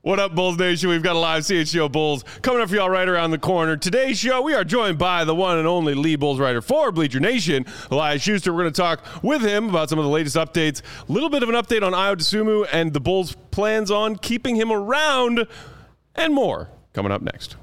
What up, Bulls Nation? We've got a live CHGO Bulls coming up for y'all right around the corner. Today's show, we are joined by the one and only lead Bulls writer for Bleacher Nation, Elias Schuster. We're going to talk with him about some of the latest updates, a little bit of an update on Ayo Dosunmu and the Bulls' plans on keeping him around, and more coming up next.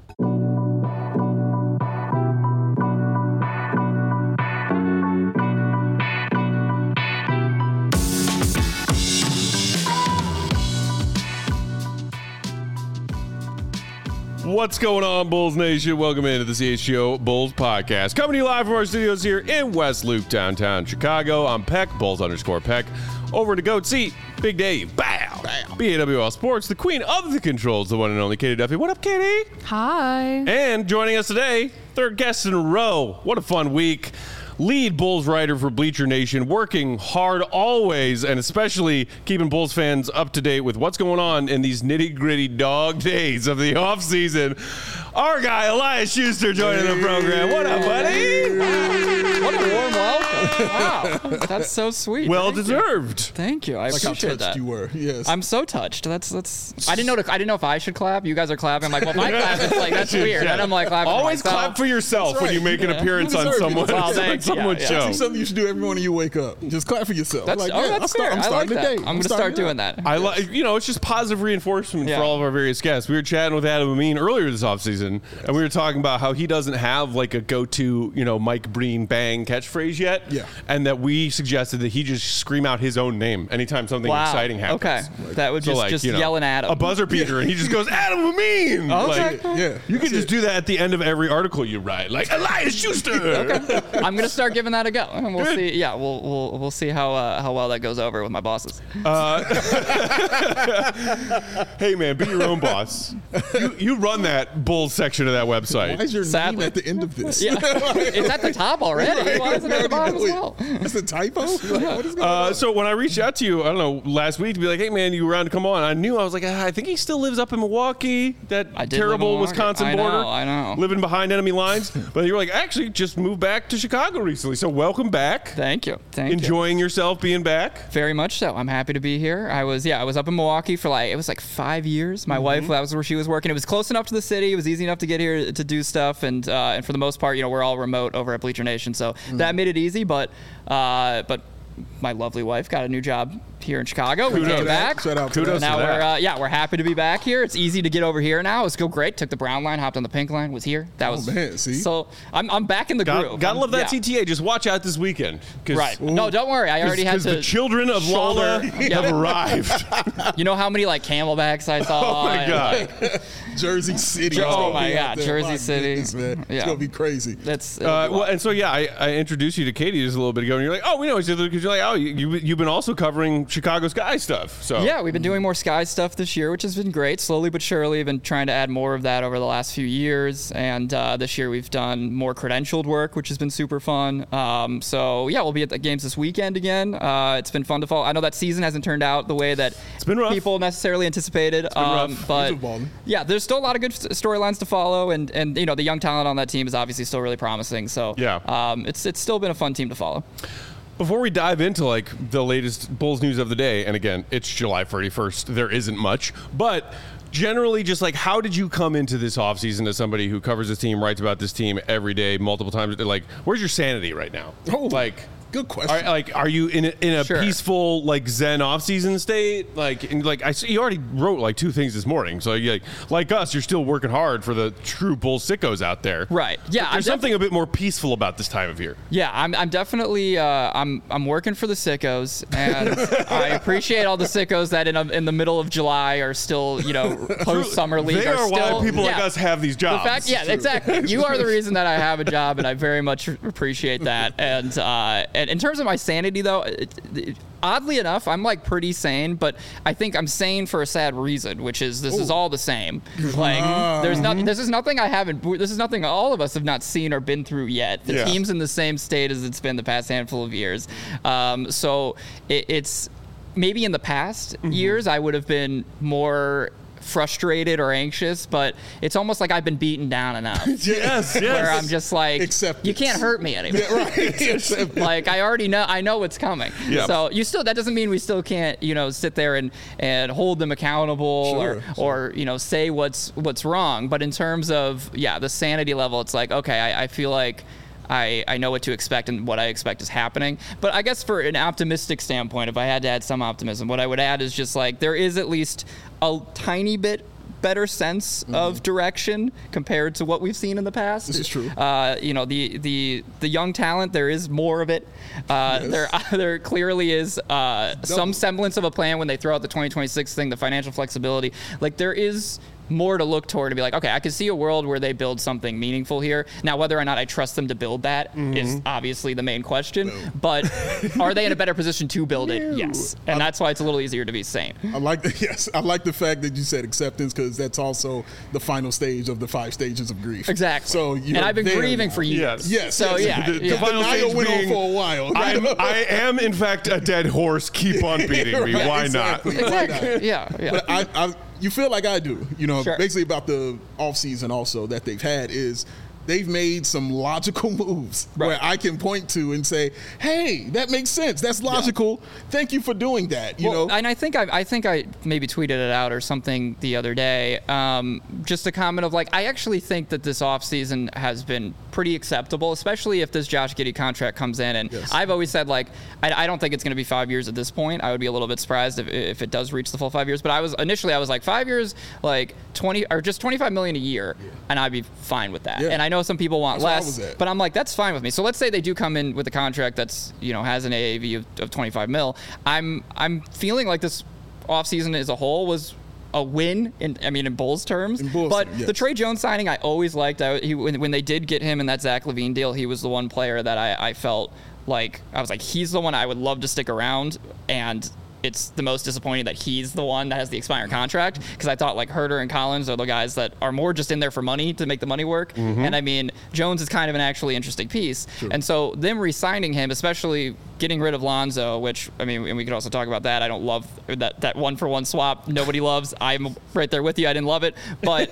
What's going on, Bulls Nation? Welcome into the CHGO Bulls podcast. Coming to you live from our studios here in West Loop, downtown Chicago. I'm Peck, Bulls_Peck. Over to Goat Seat, Big Dave, bow. BAWL Sports, the queen of the controls, the one and only Katie Duffy. What up, Katie? Hi. And joining us today, third guest in a row. What a fun week. Lead Bulls writer for Bleacher Nation, working hard always, and especially keeping Bulls fans up to date with what's going on in these nitty-gritty dog days of the offseason. Our guy, Elias Schuster, joining the program. What up, buddy? What a warm welcome. Wow. That's so sweet. Well deserved. Thank you. I like appreciate how touched that. you were. Yes. I'm so touched. That's. I didn't know if I should clap. You guys are clapping. I'm like, well, if I clap, it's like that's weird. And I'm like, clapping. Always for myself. clap for yourself when you make an appearance You on deserve it. someone. Well, thanks. Someone's Yeah. show. That's something you should do every morning you wake up. Just clap for yourself. That's I'm fair. I like starting that. the day. I'm going to start doing that. I like, it's just positive reinforcement for all of our various guests. We were chatting with Adam Amin earlier this offseason, and we were talking about how he doesn't have like a go-to, Mike Breen bang catchphrase yet. Yeah. And that we suggested that he just scream out his own name anytime something exciting happens. Okay. That would just yelling at him. A buzzer beater, and he just goes, Adam Amin! Okay. Yeah. You can just do that at the end of every article you write, like Elias Schuster. Okay. I'm going to start giving that a go, and we'll see. Yeah, we'll see how well that goes over with my bosses. Hey man, be your own boss. You run that Bulls section of that website. Why is your Sadly. name at the end of this? Yeah, it's at the top already. Why isn't it at the bottom as well? That's a typo? What is going on? So when I reached out to you, I don't know, last week to be like, hey man, you were around to come on. I knew, I was like, I think he still lives up in Milwaukee, that I did terrible live in Milwaukee. Wisconsin border. I know. Living behind enemy lines. But you were like, actually just moved back to Chicago recently. So welcome back. Thank you. Enjoying yourself being back? Very much so. I'm happy to be here. I was up in Milwaukee for it was 5 years. My wife, that was where she was working. It was close enough to the city. It was easy enough to get here to do stuff. And for the most part, we're all remote over at Bleacher Nation. So that made it easy. But my lovely wife got a new job here in Chicago. We came back. Shout out to Kudos that. Now we're happy to be back here. It's easy to get over here now. It's go great. Took the brown line, hopped on the pink line, was here. That was man, see? So I'm back in the groove. Gotta love that CTA. Just watch out this weekend. Right. No, don't worry. I already had to. Because the children of Lala have arrived. You know how many camelbacks I saw? Oh my God. Jersey City. Oh my God, Jersey City. Goodness, man. Yeah. It's going to be crazy. I introduced you to Katie just a little bit ago, and you're like, oh, we know each other because you're like, oh, you've been also covering Chicago Sky stuff. So yeah, we've been doing more Sky stuff this year, which has been great. Slowly but surely, I've been trying to add more of that over the last few years, and this year we've done more credentialed work, which has been super fun. We'll be at the games this weekend again. It's been fun to follow. I know that season hasn't turned out the way that people necessarily anticipated. It's been rough. But yeah, there's still a lot of good storylines to follow, and the young talent on that team is obviously still really promising. So it's still been a fun team to follow. Before we dive into the latest Bulls news of the day, and again, it's July 31st, there isn't much, but generally just how did you come into this offseason as somebody who covers this team, writes about this team every day, multiple times? Where's your sanity right now? Good question. Are you in a Sure. peaceful Zen offseason state? I see you already wrote 2 things this morning. So like us, you're still working hard for the true Bull sickos out there. Right. Yeah. There's something a bit more peaceful about this time of year. Yeah, I'm definitely I'm working for the sickos, and I appreciate all the sickos that in the middle of July are still post summer league. They are still, why people like us have these jobs. Exactly. You are the reason that I have a job, and I very much appreciate that. And in terms of my sanity, though, oddly enough, I'm pretty sane, but I think I'm sane for a sad reason, which is this is all the same. There's nothing. This is nothing I haven't. This is nothing all of us have not seen or been through yet. The team's in the same state as it's been the past handful of years. So it's maybe in the past years I would have been more frustrated or anxious, but it's almost like I've been beaten down enough. Yes. Where I'm just like, Acceptance. you can't hurt me anymore. Yeah, right. Like I know what's coming. Yeah. So that doesn't mean we still can't, sit there and hold them accountable or say what's wrong. But in terms of the sanity level, it's like, okay, I feel like I know what to expect, and what I expect is happening. But I guess for an optimistic standpoint, if I had to add some optimism, what I would add is just like there is at least a tiny bit better sense of direction compared to what we've seen in the past. This is true. The young talent, there is more of it. There clearly is some semblance of a plan when they throw out the 2026 thing, the financial flexibility. Like there is more to look toward to be like, okay, I can see a world where they build something meaningful here. Now, whether or not I trust them to build that is obviously the main question. But are they in a better position to build it? Yes. And that's why it's a little easier to be sane. I like the fact that you said acceptance, because that's also the final stage of the 5 stages of grief. Exactly. So and I've been grieving for years. Yes. So The final stage went being, on for a while. I am in fact a dead horse. Keep on beating me. Right, Why exactly. not? Why not? Yeah. But you feel like I do, Sure. basically about the offseason also that they've had is they've made some logical moves where I can point to and say, hey, that makes sense. That's logical. Yeah. Thank you for doing that. You know? And I think I maybe tweeted it out or something the other day. Just a comment of like, I actually think that this offseason has been pretty acceptable, especially if this Josh Giddey contract comes in. And I've always said, like, I don't think it's going to be 5 years at this point. I would be a little bit surprised if it does reach the full 5 years. But I was like 5 years, like 20 or just $25 million a year, and I'd be fine with that. Yeah. And I know some people want less, but I'm like, that's fine with me. So let's say they do come in with a contract that's has an AAV of 25 mil. I'm feeling like this offseason as a whole was a win in Bulls terms. The Trey Jones signing I always liked. When they did get him in that Zach LaVine deal, he was the one player that I felt like I was like, he's the one I would love to stick around, and it's the most disappointing that he's the one that has the expiring contract, because I thought like Herter and Collins are the guys that are more just in there for money to make the money work. And Jones is kind of an actually interesting piece. True. And so them re-signing him, especially getting rid of Lonzo, which and we could also talk about that. I don't love that 1-for-1 swap. Nobody loves. I'm right there with you. I didn't love it, but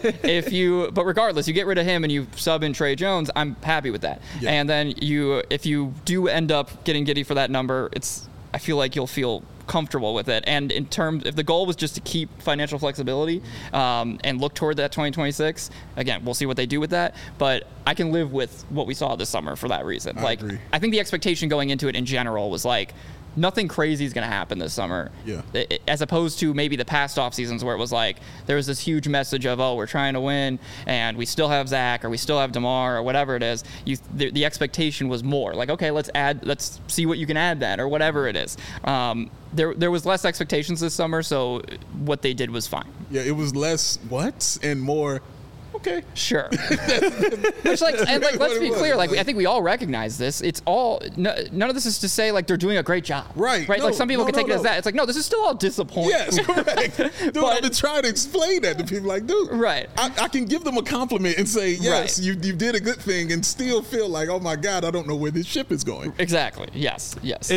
but regardless, you get rid of him and you sub in Trey Jones. I'm happy with that. Yeah. And then if you do end up getting Giddey for that number, I feel like you'll feel comfortable with it. And in terms, if the goal was just to keep financial flexibility and look toward that 2026, again, we'll see what they do with that. But I can live with what we saw this summer for that reason. I agree. I think the expectation going into it in general was like, nothing crazy is going to happen this summer. Yeah. As opposed to maybe the past off seasons where it was like there was this huge message of, oh, we're trying to win and we still have Zach or we still have DeMar or whatever it is. The expectation was more like, okay, let's see what you can add then or whatever it is. There was less expectations this summer, so what they did was fine. Yeah, it was less and more. Okay. Sure. Which let's be clear. I think we all recognize this. It's all none of this is to say like they're doing a great job. Right. No, like some people can take it as that. It's like, no, this is still all disappointing. Yes, correct. Dude, I've been trying to explain that to people. Like, dude, right. I can give them a compliment and say, yes, you did a good thing, and still feel like, oh my God, I don't know where this ship is going. Exactly. Yes.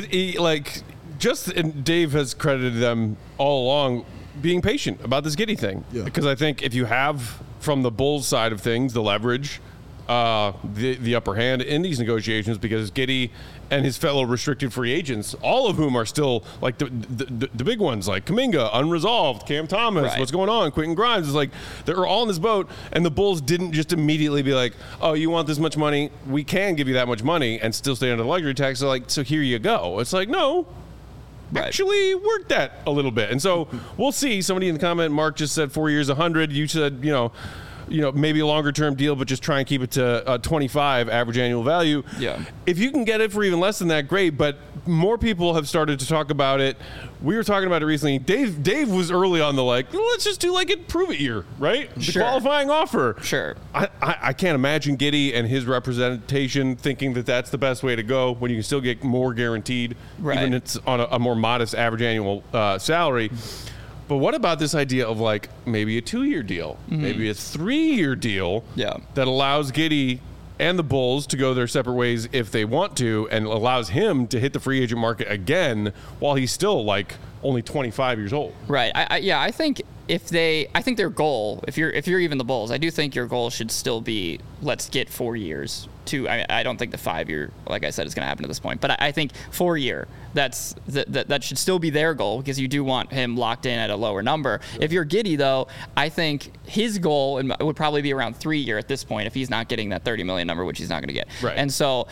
And Dave has credited them all along being patient about this Giddey thing. Yeah. Because I think if you have, from the Bulls side of things, the leverage, the upper hand in these negotiations, because Giddey and his fellow restricted free agents, all of whom are still like the big ones, like Kuminga, unresolved, Cam Thomas, what's going on, Quentin Grimes, is like they're all in this boat, and the Bulls didn't just immediately be like, oh, you want this much money? We can give you that much money and still stay under the luxury tax. So here you go. It's like, no. Right. Actually worked that a little bit. And so we'll see. Somebody in the comment, Mark just said 4 years, 100. You said, maybe a longer term deal, but just try and keep it to 25 average annual value. Yeah. If you can get it for even less than that, great. But more people have started to talk about it. We were talking about it recently. Dave was early on the let's just do like a prove it year, right? The qualifying offer. Sure. I can't imagine Giddey and his representation thinking that that's the best way to go when you can still get more guaranteed, even if it's on a more modest average annual salary. But what about this idea of like maybe a 2-year deal, maybe a 3-year deal that allows Giddey and the Bulls to go their separate ways if they want to, and allows him to hit the free agent market again while he's still like only 25 years old. Right. I think I think their goal, if you're even the Bulls, I do think your goal should still be, let's get 4 years. I don't think the 5 year, like I said, is going to happen at this point. But I think 4 year, that should still be their goal, because you do want him locked in at a lower number. Sure. If you're Giddey, though, I think his goal would probably be around 3 year at this point, if he's not getting that $30 million number, which he's not going to get. Right. And so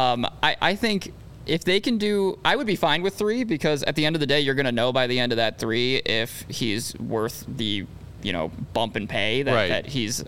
I think if they can I would be fine with 3, because at the end of the day, you're going to know by the end of that 3 if he's worth the, bump in pay that he's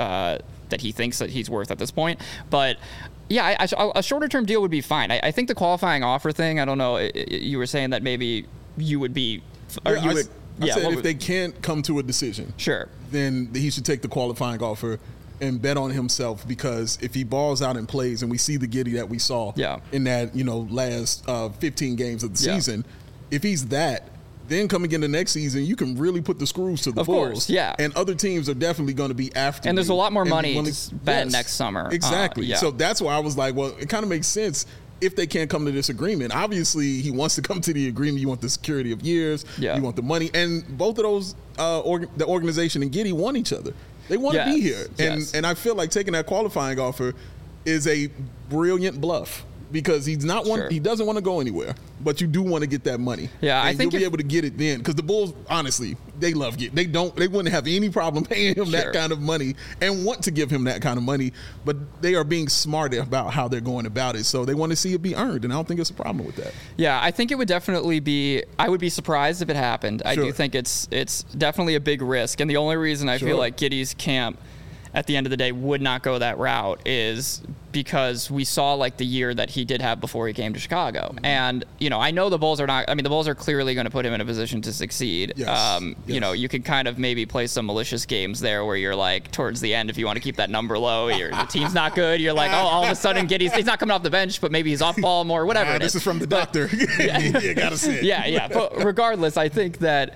that he thinks that he's worth at this point. But yeah, a shorter term deal would be fine. I think the qualifying offer thing, I don't know, you were saying that maybe you would be, or you would. I said if they can't come to a decision, sure, then he should take the qualifying offer and bet on himself, because if he balls out and plays, and we see the Giddey that we saw in that last 15 games of the season, if he's that, then coming into next season, you can really put the screws to the Bulls. Of course, yeah. And other teams are definitely going to be after and you. there's a lot more money to spend next summer. Exactly. So that's why I was like, well, it kind of makes sense if they can't come to this agreement. Obviously, he wants to come to the agreement. You want the security of years. You want the money. And both of those, the organization and Giddey want each other. They want to be here. And I feel like taking that qualifying offer is a brilliant bluff, because he's not one. Sure. He doesn't want to go anywhere, but you do want to get that money. Yeah, and I think you'll be able to get it then, because the Bulls, honestly, they love it. They wouldn't have any problem paying him that kind of money and want to give him that kind of money, but they are being smart about how they're going about it. So they want to see it be earned, and I don't think it's a problem with that. Yeah, I think it would definitely be. I would be surprised if it happened. I do think it's definitely a big risk, and the only reason I feel like Giddey's camp at the end of the day would not go that route is because we saw like the year that he did have before he came to Chicago. And, I know the Bulls are not, the Bulls are clearly going to put him in a position to succeed. Yes. You can kind of maybe play some malicious games there where you're like, towards the end, if you want to keep that number low, the team's not good. You're like, all of a sudden he's not coming off the bench, but maybe he's off ball more, whatever. This is from the doctor. You got to say it. Yeah. But regardless, I think that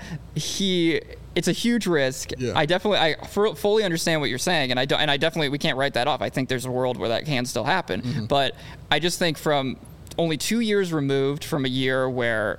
it's a huge risk. Yeah. I fully understand what you're saying, and I definitely, we can't write that off. I think there's a world where that can still happen. Mm-hmm. But I just think from only 2 years removed from a year where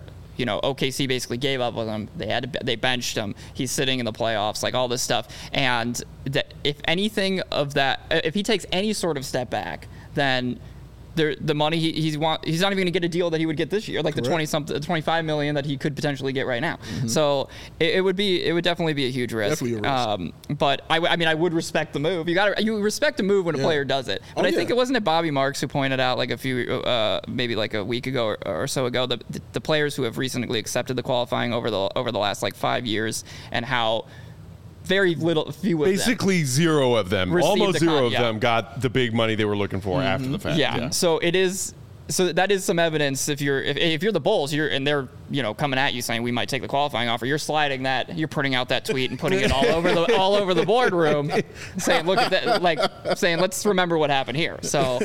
OKC basically gave up with him, they benched him, he's sitting in the playoffs, like all this stuff, and that if anything of that, if he takes any sort of step back, then the money he's not even going to get a deal that he would get this year, like the $25 million that he could potentially get right now. Mm-hmm. So it would definitely be a huge risk. Definitely a risk. But I would respect the move. You respect a move when a player does it. But I think it wasn't Bobby Marks who pointed out like a few maybe like a week ago or so ago the players who have recently accepted the qualifying over the last like 5 years, and how very few of basically them. Zero of them, almost zero of them got the big money they were looking for after the fact. Yeah. So that is some evidence. If you're the Bulls, and they're coming at you saying we might take the qualifying offer, you're sliding that, you're putting out that tweet and putting it all over the boardroom, saying look at that, like saying let's remember what happened here. So.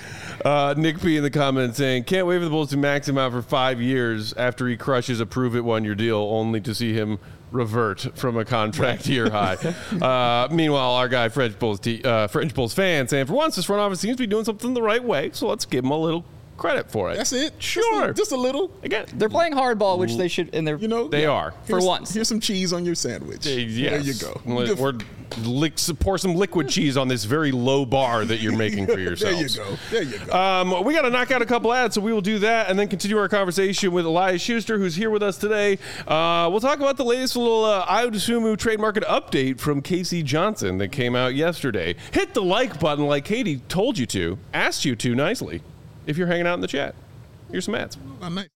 Nick P in the comments saying, can't wait for the Bulls to max him out for 5 years after he crushes a prove-it one-year deal, only to see him revert from a contract year high. Meanwhile, our guy, French Bulls fan, saying, for once, this front office seems to be doing something the right way, so let's give him a little credit for it. That's it. Sure. Just a little. Again, they're playing hardball, which they should, and they are. For once. Here's some cheese on your sandwich. Yes. There you go. Pour some liquid cheese on this very low bar that you're making for yourselves. There you go. We got to knock out a couple ads, so we will do that and then continue our conversation with Elias Schuster, who's here with us today. We'll talk about the latest little Ayo trade market update from Casey Johnson that came out yesterday. Hit the like button like Katie told you to, asked you to nicely, if you're hanging out in the chat. Here's some ads. Oh, nice.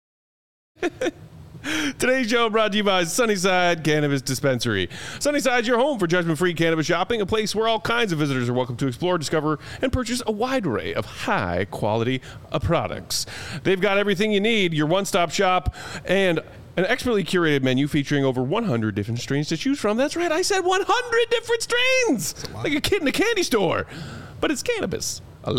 Today's show brought to you by Sunnyside Cannabis Dispensary. Sunnyside's your home for judgment-free cannabis shopping, a place where all kinds of visitors are welcome to explore, discover, and purchase a wide array of high-quality products. They've got everything you need, your one-stop shop, and an expertly curated menu featuring over 100 different strains to choose from. That's right, I said 100 different strains! Like a kid in a candy store. But it's cannabis. I love it.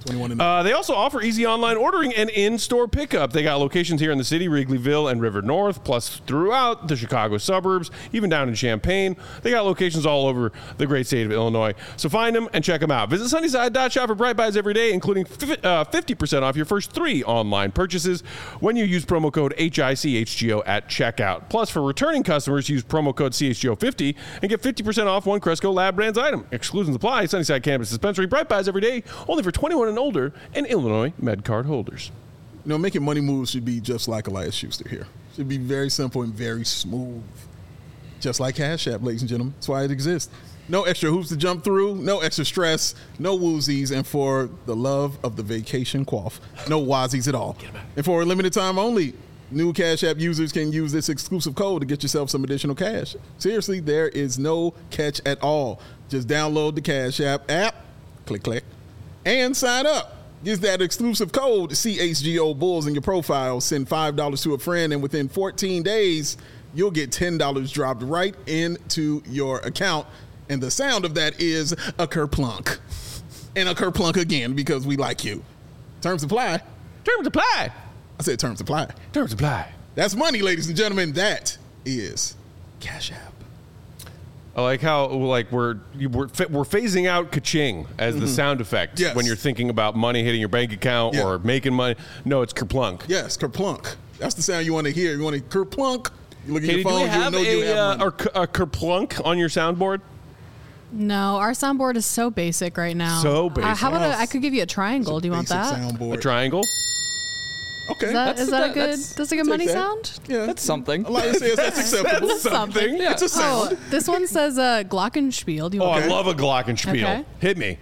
21 and up. They also offer easy online ordering and in-store pickup. They got locations here in the city, Wrigleyville and River North, plus throughout the Chicago suburbs, even down in Champaign. They got locations all over the great state of Illinois. So find them and check them out. Visit Sunnyside.shop for Bright Buys every day, including 50% off your first 3 online purchases when you use promo code HICHGO at checkout. Plus, for returning customers, use promo code CHGO50 and get 50% off one Cresco Lab Brands item. Exclusions apply. Sunnyside Cannabis Dispensary. Bright Buys every day, only for 21 and older and Illinois MedCard holders. Making money moves should be just like Elias Schuster here. Should be very simple and very smooth. Just like Cash App, ladies and gentlemen. That's why it exists. No extra hoops to jump through, no extra stress, no woozies, and for the love of the vacation quaff, no wazies at all. And for a limited time only, new Cash App users can use this exclusive code to get yourself some additional cash. Seriously, there is no catch at all. Just download the Cash App, click, and sign up. Use that exclusive code, CHGO Bulls, in your profile. Send $5 to a friend, and within 14 days, you'll get $10 dropped right into your account. And the sound of that is a kerplunk. And a kerplunk again, because we like you. Terms apply. Terms apply. I said terms apply. Terms apply. That's money, ladies and gentlemen. That is Cash App. I like how we're phasing out ka-ching as the sound effect when you're thinking about money hitting your bank account or making money. No, it's kerplunk. Yes, kerplunk. That's the sound you want to hear. You want to kerplunk. You look at Katie, your phone. do we have you have a kerplunk on your soundboard? No, our soundboard is so basic right now. So basic. How about I could give you a triangle? Do you want that? Soundboard. A triangle? Okay. That's a good money sound? Yeah. That's something. Elias says that's acceptable. That's something. Yeah. It's a sound. This one says glockenspiel. Do you want I love a glockenspiel. Okay. Hit me.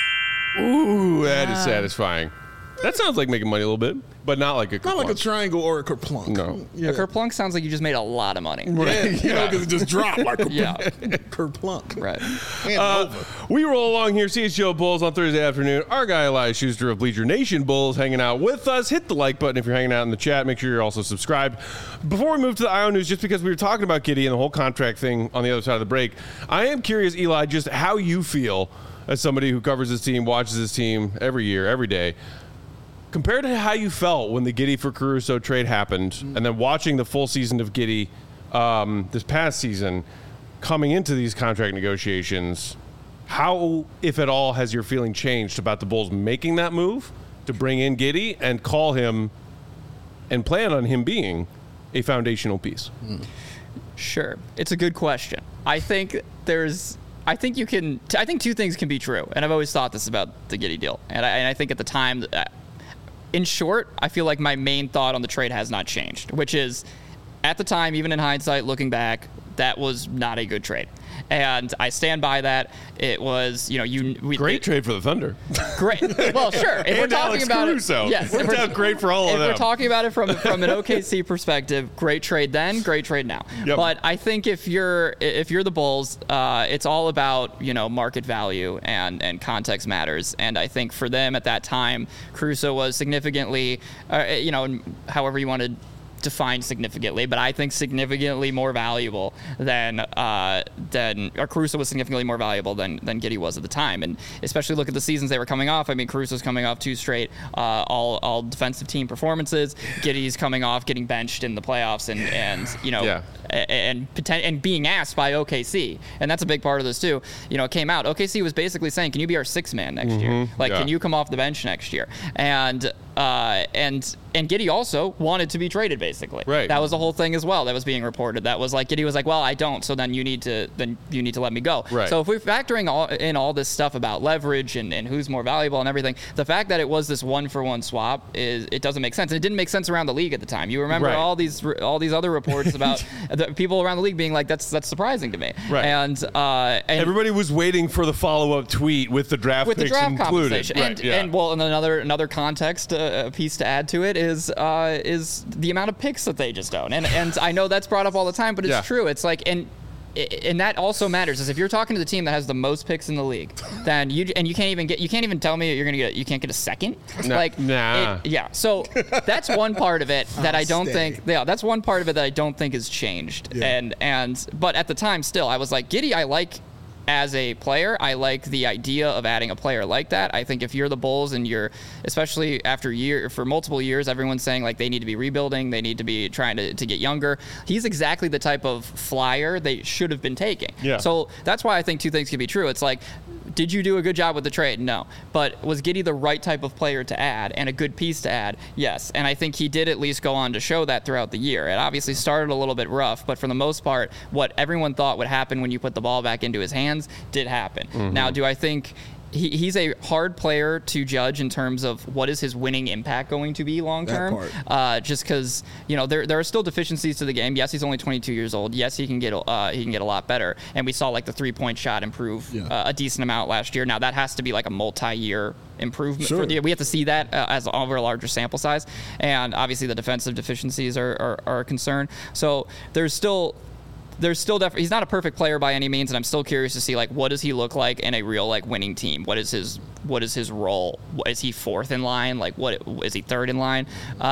Ooh, that is satisfying. That sounds like making money a little bit, but not like a kerplunk. Not like a triangle or a kerplunk. No. Yeah. A kerplunk sounds like you just made a lot of money. Right. Yeah. Because it just dropped like a Yeah. kerplunk. Right. And over. We roll along here, CHGO Bulls on Thursday afternoon. Our guy Elias Schuster of Bleacher Nation Bulls hanging out with us. Hit the like button if you're hanging out in the chat. Make sure you're also subscribed. Before we move to the IO News, just because we were talking about Giddey and the whole contract thing on the other side of the break, I am curious, Eli, just how you feel as somebody who covers this team, watches this team every year, every day, compared to how you felt when the Giddey for Caruso trade happened, and then watching the full season of Giddey this past season, coming into these contract negotiations, how, if at all, has your feeling changed about the Bulls making that move to bring in Giddey and call him and plan on him being a foundational piece? Sure. It's a good question. I think two things can be true, and I've always thought this about the Giddey deal. And I think at the time, in short, I feel like my main thought on the trade has not changed, which is, at the time, even in hindsight, looking back, that was not a good trade. And I stand by that. It was, great trade for the Thunder. Great. Well, sure. If we're talking Alex about Caruso. it, yes. Worked out great for all of them. If we're talking about it from an OKC perspective, great trade then, great trade now. Yep. But I think if you're the Bulls, it's all about market value and context matters. And I think for them at that time, Caruso was significantly, however you want to define significantly, but I think significantly more valuable than Caruso was significantly more valuable than Giddey was at the time. And especially look at the seasons they were coming off. I mean, Caruso's coming off 2 straight all defensive team performances. Giddey's coming off getting benched in the playoffs and being asked by OKC, and that's a big part of this too. It came out. OKC was basically saying, "Can you be our 6th man next year? Can you come off the bench next year?" And Giddey also wanted to be traded, basically. Right. That was the whole thing as well that was being reported. That was like, Giddey was like, well, I don't, so then you need to let me go. Right. So if we're factoring all this stuff about leverage and who's more valuable and everything, the fact that it was this 1-for-1 swap it doesn't make sense. And it didn't make sense around the league at the time. You remember all these other reports about the people around the league being like, that's surprising to me. Right. And everybody was waiting for the follow-up tweet with the draft picks included. And another context piece to add to it is the amount of picks that they just own. And I know that's brought up all the time, but it's true. It's like, and that also matters, is if you're talking to the team that has the most picks in the league, then you can't even tell me you can't get a second. So that's one part of it that I don't think. Yeah, that's one part of it that I don't think has changed. Yeah. But at the time, still, I was like, Giddey, I like as a player, I like the idea of adding a player like that. I think if you're the Bulls and you're, especially for multiple years, everyone's saying like they need to be rebuilding, they need to be trying to get younger. He's exactly the type of flyer they should have been taking. Yeah. So that's why I think two things can be true. It's like, did you do a good job with the trade? No. But was Giddey the right type of player to add and a good piece to add? Yes. And I think he did at least go on to show that throughout the year. It obviously started a little bit rough, but for the most part, what everyone thought would happen when you put the ball back into his hands did happen. Mm-hmm. Now, do I think he's a hard player to judge in terms of what is his winning impact going to be long term? Just because there are still deficiencies to the game. Yes, he's only 22 years old. Yes, he can get a lot better. And we saw like the 3-point shot improve a decent amount last year. Now that has to be like a multi-year improvement. Sure. We have to see that as over a larger sample size. And obviously the defensive deficiencies are a concern. So there's still definitely, he's not a perfect player by any means, and I'm still curious to see like what does he look like in a real like winning team? What is his role? Is he fourth in line? Like what is he third in line?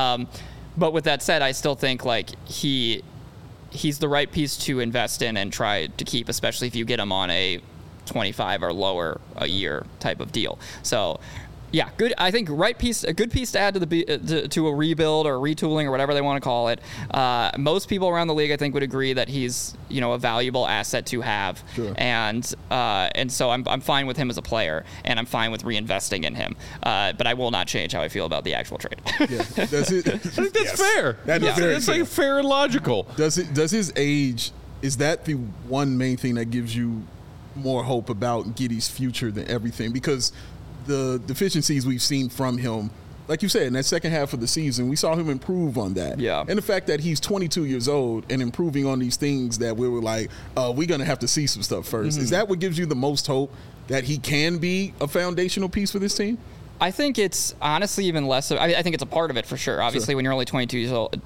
But with that said, I still think like he's the right piece to invest in and try to keep, especially if you get him on a 25 or lower a year type of deal. So. Yeah, good. I think a good piece to add to a rebuild or retooling or whatever they want to call it. Most people around the league, I think, would agree that he's a valuable asset to have, sure. and so I'm fine with him as a player, and I'm fine with reinvesting in him. But I will not change how I feel about the actual trade. Yeah, that's it. I think that's fair. That's like fair and logical. Does his age, is that the one main thing that gives you more hope about Giddey's future than everything? Because the deficiencies we've seen from him, like you said, in that second half of the season, we saw him improve on that. Yeah. And the fact that he's 22 years old and improving on these things that we were like, we're going to have to see some stuff first. Mm-hmm. Is that what gives you the most hope that he can be a foundational piece for this team? I think it's honestly even less. I think it's a part of it for sure. Obviously, when you're only 22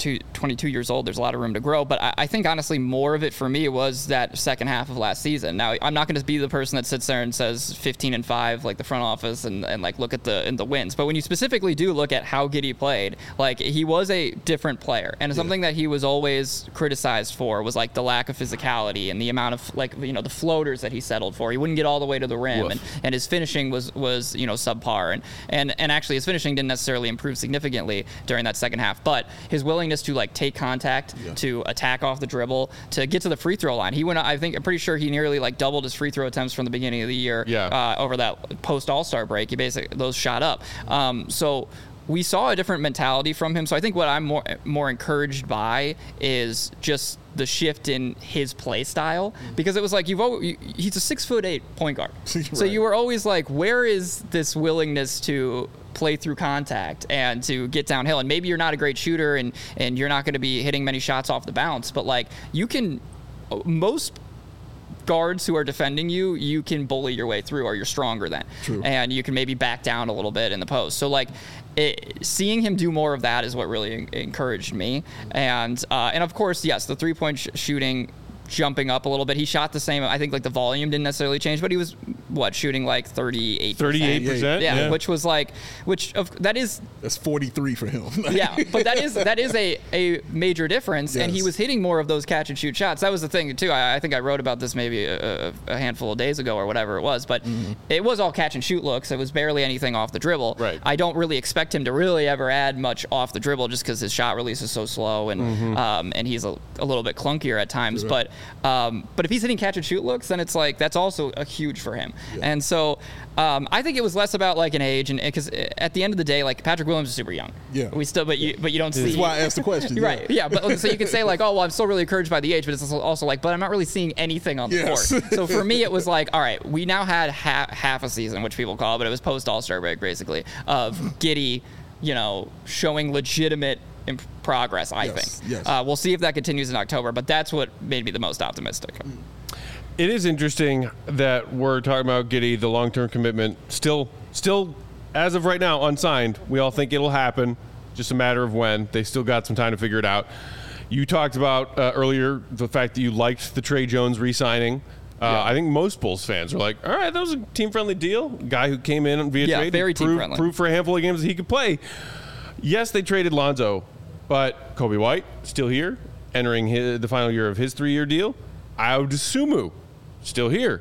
years old, there's a lot of room to grow. But I think honestly more of it for me was that second half of last season. Now, I'm not going to be the person that sits there and says 15-5 like the front office and like look at the wins. But when you specifically do look at how Giddey played, like he was a different player, and something that he was always criticized for was like the lack of physicality and the amount of like the floaters that he settled for. He wouldn't get all the way to the rim, and his finishing was subpar. And actually his finishing didn't necessarily improve significantly during that second half, but his willingness to like take contact, to attack off the dribble, to get to the free throw line. I'm pretty sure he nearly like doubled his free throw attempts from the beginning of the year over that post All-Star break. He basically, those shot up. So we saw a different mentality from him. So I think what I'm more encouraged by is just the shift in his play style, because it was like he's a 6'8" point guard. Right. So you were always like, where is this willingness to play through contact and to get downhill? And maybe you're not a great shooter and you're not going to be hitting many shots off the bounce, but like most guards who are defending you can bully your way through, or you're stronger than. True. And you can maybe back down a little bit in the post. So like seeing him do more of that is what really encouraged me. And of course, yes, the 3-point shooting jumping up a little bit. He shot the same. I think like the volume didn't necessarily change, but he was shooting like 38%. 38%. Yeah, which was like, that's 43 for him. Yeah, but that is a major difference, and he was hitting more of those catch and shoot shots. That was the thing too. I think I wrote about this maybe a handful of days ago or whatever it was, but it was all catch and shoot looks. It was barely anything off the dribble. Right. I don't really expect him to really ever add much off the dribble, just because his shot release is so slow and he's a little bit clunkier at times. Sure. But if he's hitting catch and shoot looks, then it's like that's also a huge for him. Yeah. And so I think it was less about like an age, and because at the end of the day, like Patrick Williams is super young. Yeah. But you don't see. That's why I asked the question. Right. Yeah. But so you can say like, oh well, I'm still really encouraged by the age, but it's also like, but I'm not really seeing anything on the court. So for me, it was like, all right, we now had half a season, which people call, but it was post All-Star break basically, of Giddey, showing legitimate progress, I think. Yes. We'll see if that continues in October, but that's what made me the most optimistic. It is interesting that we're talking about Giddey, the long-term commitment, still, as of right now, unsigned. We all think it'll happen, just a matter of when. They still got some time to figure it out. You talked about earlier the fact that you liked the Trey Jones re-signing. I think most Bulls fans are like, all right, that was a team-friendly deal. Guy who came in via trade, very team-friendly. Proved for a handful of games that he could play. Yes, they traded Lonzo, but Kobe White still here, entering the final year of his 3-year deal. Ayo Dosunmu still here.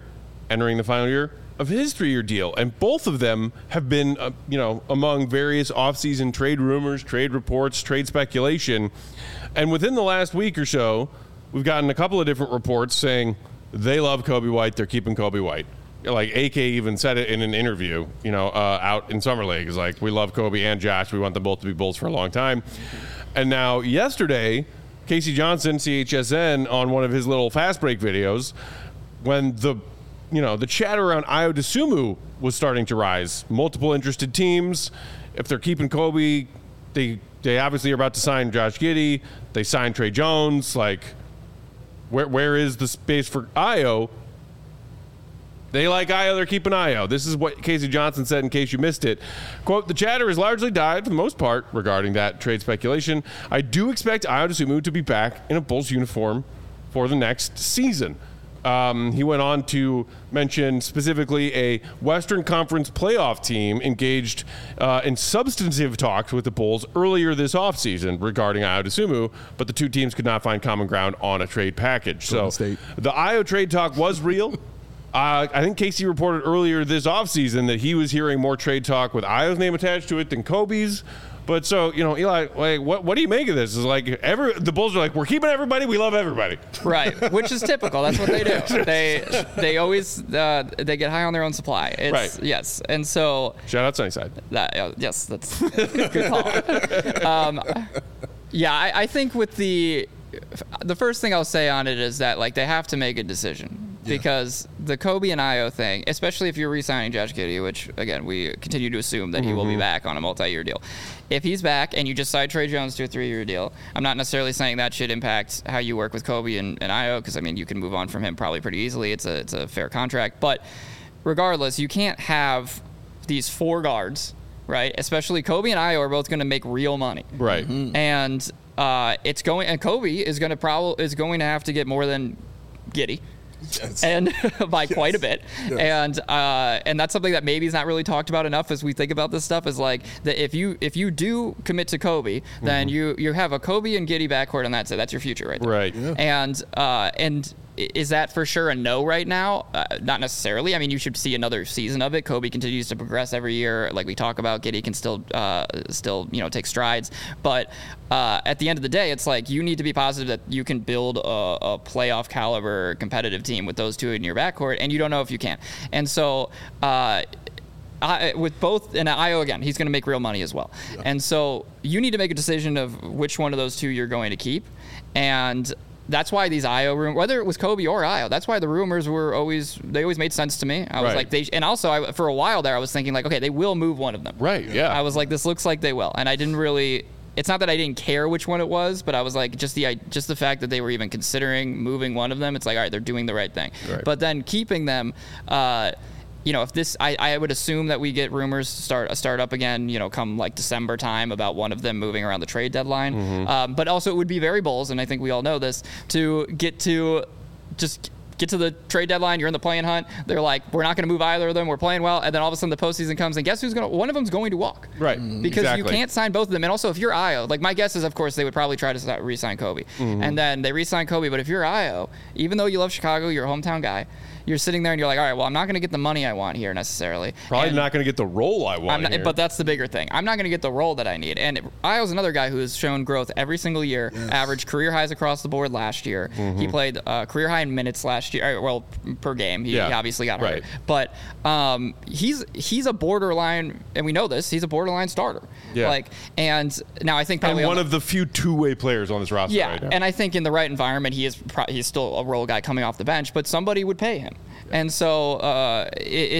entering the final year of his 3-year deal. And both of them have been, among various offseason trade rumors, trade reports, trade speculation. And within the last week or so, we've gotten a couple of different reports saying they love Coby White, they're keeping Coby White. Like AK even said it in an interview, out in Summer League. It's like, we love Coby and Josh. We want them both to be Bulls for a long time. And now yesterday, Casey Johnson, CHSN, on one of his little fast break videos, when the chatter around Ayo Dosunmu was starting to rise. Multiple interested teams. If they're keeping Coby, they obviously are about to sign Josh Giddey. They signed Trey Jones. Like, where is the space for Ayo? They like Ayo, they're keeping Ayo. This is what Casey Johnson said in case you missed it. Quote, the chatter has largely died for the most part regarding that trade speculation. I do expect Ayo Dosunmu to be back in a Bulls uniform for the next season. He went on to mention specifically a Western Conference playoff team engaged in substantive talks with the Bulls earlier this offseason regarding Ayo Dosunmu, but the two teams could not find common ground on a trade package. So the Ayo trade talk was real. I think Casey reported earlier this offseason that he was hearing more trade talk with Ayo's name attached to it than Kobe's. But so, Eli, like, what do you make of this? It's like the Bulls are like, we're keeping everybody. We love everybody. Right, which is typical. That's what they do. They always they get high on their own supply. Right. Yes, and so shout out Sunnyside. Yes, that's a good call. I think with the first thing I'll say on it is that like they have to make a decision. Because the Coby and Ayo thing, especially if you're re-signing Josh Giddey, which, again, we continue to assume that he will be back on a multi-year deal. If he's back and you just signed Trey Jones to a 3-year deal, I'm not necessarily saying that should impact how you work with Coby and Ayo, because, I mean, you can move on from him probably pretty easily. It's a fair contract. But regardless, you can't have these 4 guards, right? Especially Coby and Ayo are both going to make real money. Right. Mm-hmm. And Coby is going to have to get more than Giddey. Yes. And by quite a bit. Yes. And that's something that maybe is not really talked about enough as we think about this stuff, is like that if you do commit to Coby, then you have a Coby and Giddey backcourt, and that's it. That's your future right there. Right. Yeah. And is that for sure a no right now? Not necessarily. I mean, you should see another season of it. Coby continues to progress every year, like we talk about. Giddey can still take strides, but at the end of the day, it's like you need to be positive that you can build a playoff caliber competitive team with those two in your backcourt, and you don't know if you can. And so with both, and Ayo, again, he's going to make real money as well. Yeah. And so you need to make a decision of which one of those two you're going to keep. And that's why these Ayo rumors, whether it was Coby or Ayo, that's why the rumors always made sense to me. I was like, and also for a while there, I was thinking like, okay, they will move one of them. Right. Yeah. I was like, this looks like they will, and I didn't really. It's not that I didn't care which one it was, but I was like, just the fact that they were even considering moving one of them, it's like, all right, they're doing the right thing. Right. But then keeping them. If this, I would assume that we get rumors start up again, come like December time about one of them moving around the trade deadline. Mm-hmm. But also it would be very Bulls, and I think we all know this, to get to the trade deadline, you're in the play-in hunt. They're like, we're not going to move either of them. We're playing well. And then all of a sudden the postseason comes, and guess one of them's going to walk. Right. Because you can't sign both of them. And also if you're Ayo, like my guess is, of course, they would probably try to re-sign Coby. Mm-hmm. And then they re-sign Coby. But if you're Ayo, even though you love Chicago, you're a hometown guy, you're sitting there and you're like, all right, well, I'm not going to get the money I want here necessarily. Probably not going to get the role I want here. But that's the bigger thing. I'm not going to get the role that I need. And Ayo's another guy who has shown growth every single year, averaged career highs across the board last year. Mm-hmm. He played career high in minutes last year, well, per game. He obviously got hurt. But he's a borderline, and we know this, he's a borderline starter. Yeah. And now I think probably one of the few two-way players on this roster right now. And I think in the right environment, he's still a role guy coming off the bench, but somebody would pay him. And so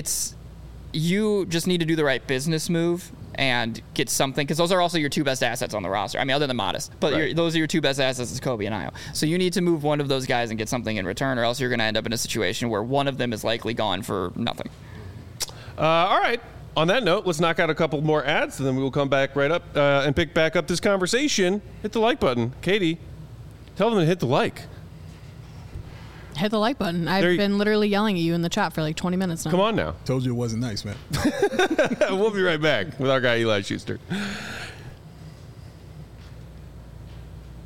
you just need to do the right business move and get something, because those are also your two best assets on the roster. I mean, other than Modest, but those are your two best assets is Coby and Ayo. So you need to move one of those guys and get something in return, or else you're going to end up in a situation where one of them is likely gone for nothing. All right. On that note, let's knock out a couple more ads, and then we will come back right up and pick back up this conversation. Hit the like button. Katie, tell them to hit the like. Hit the like button. I've been literally yelling at you in the chat for like 20 minutes now. Come on now. Told you it wasn't nice, man. We'll be right back with our guy Eli Schuster.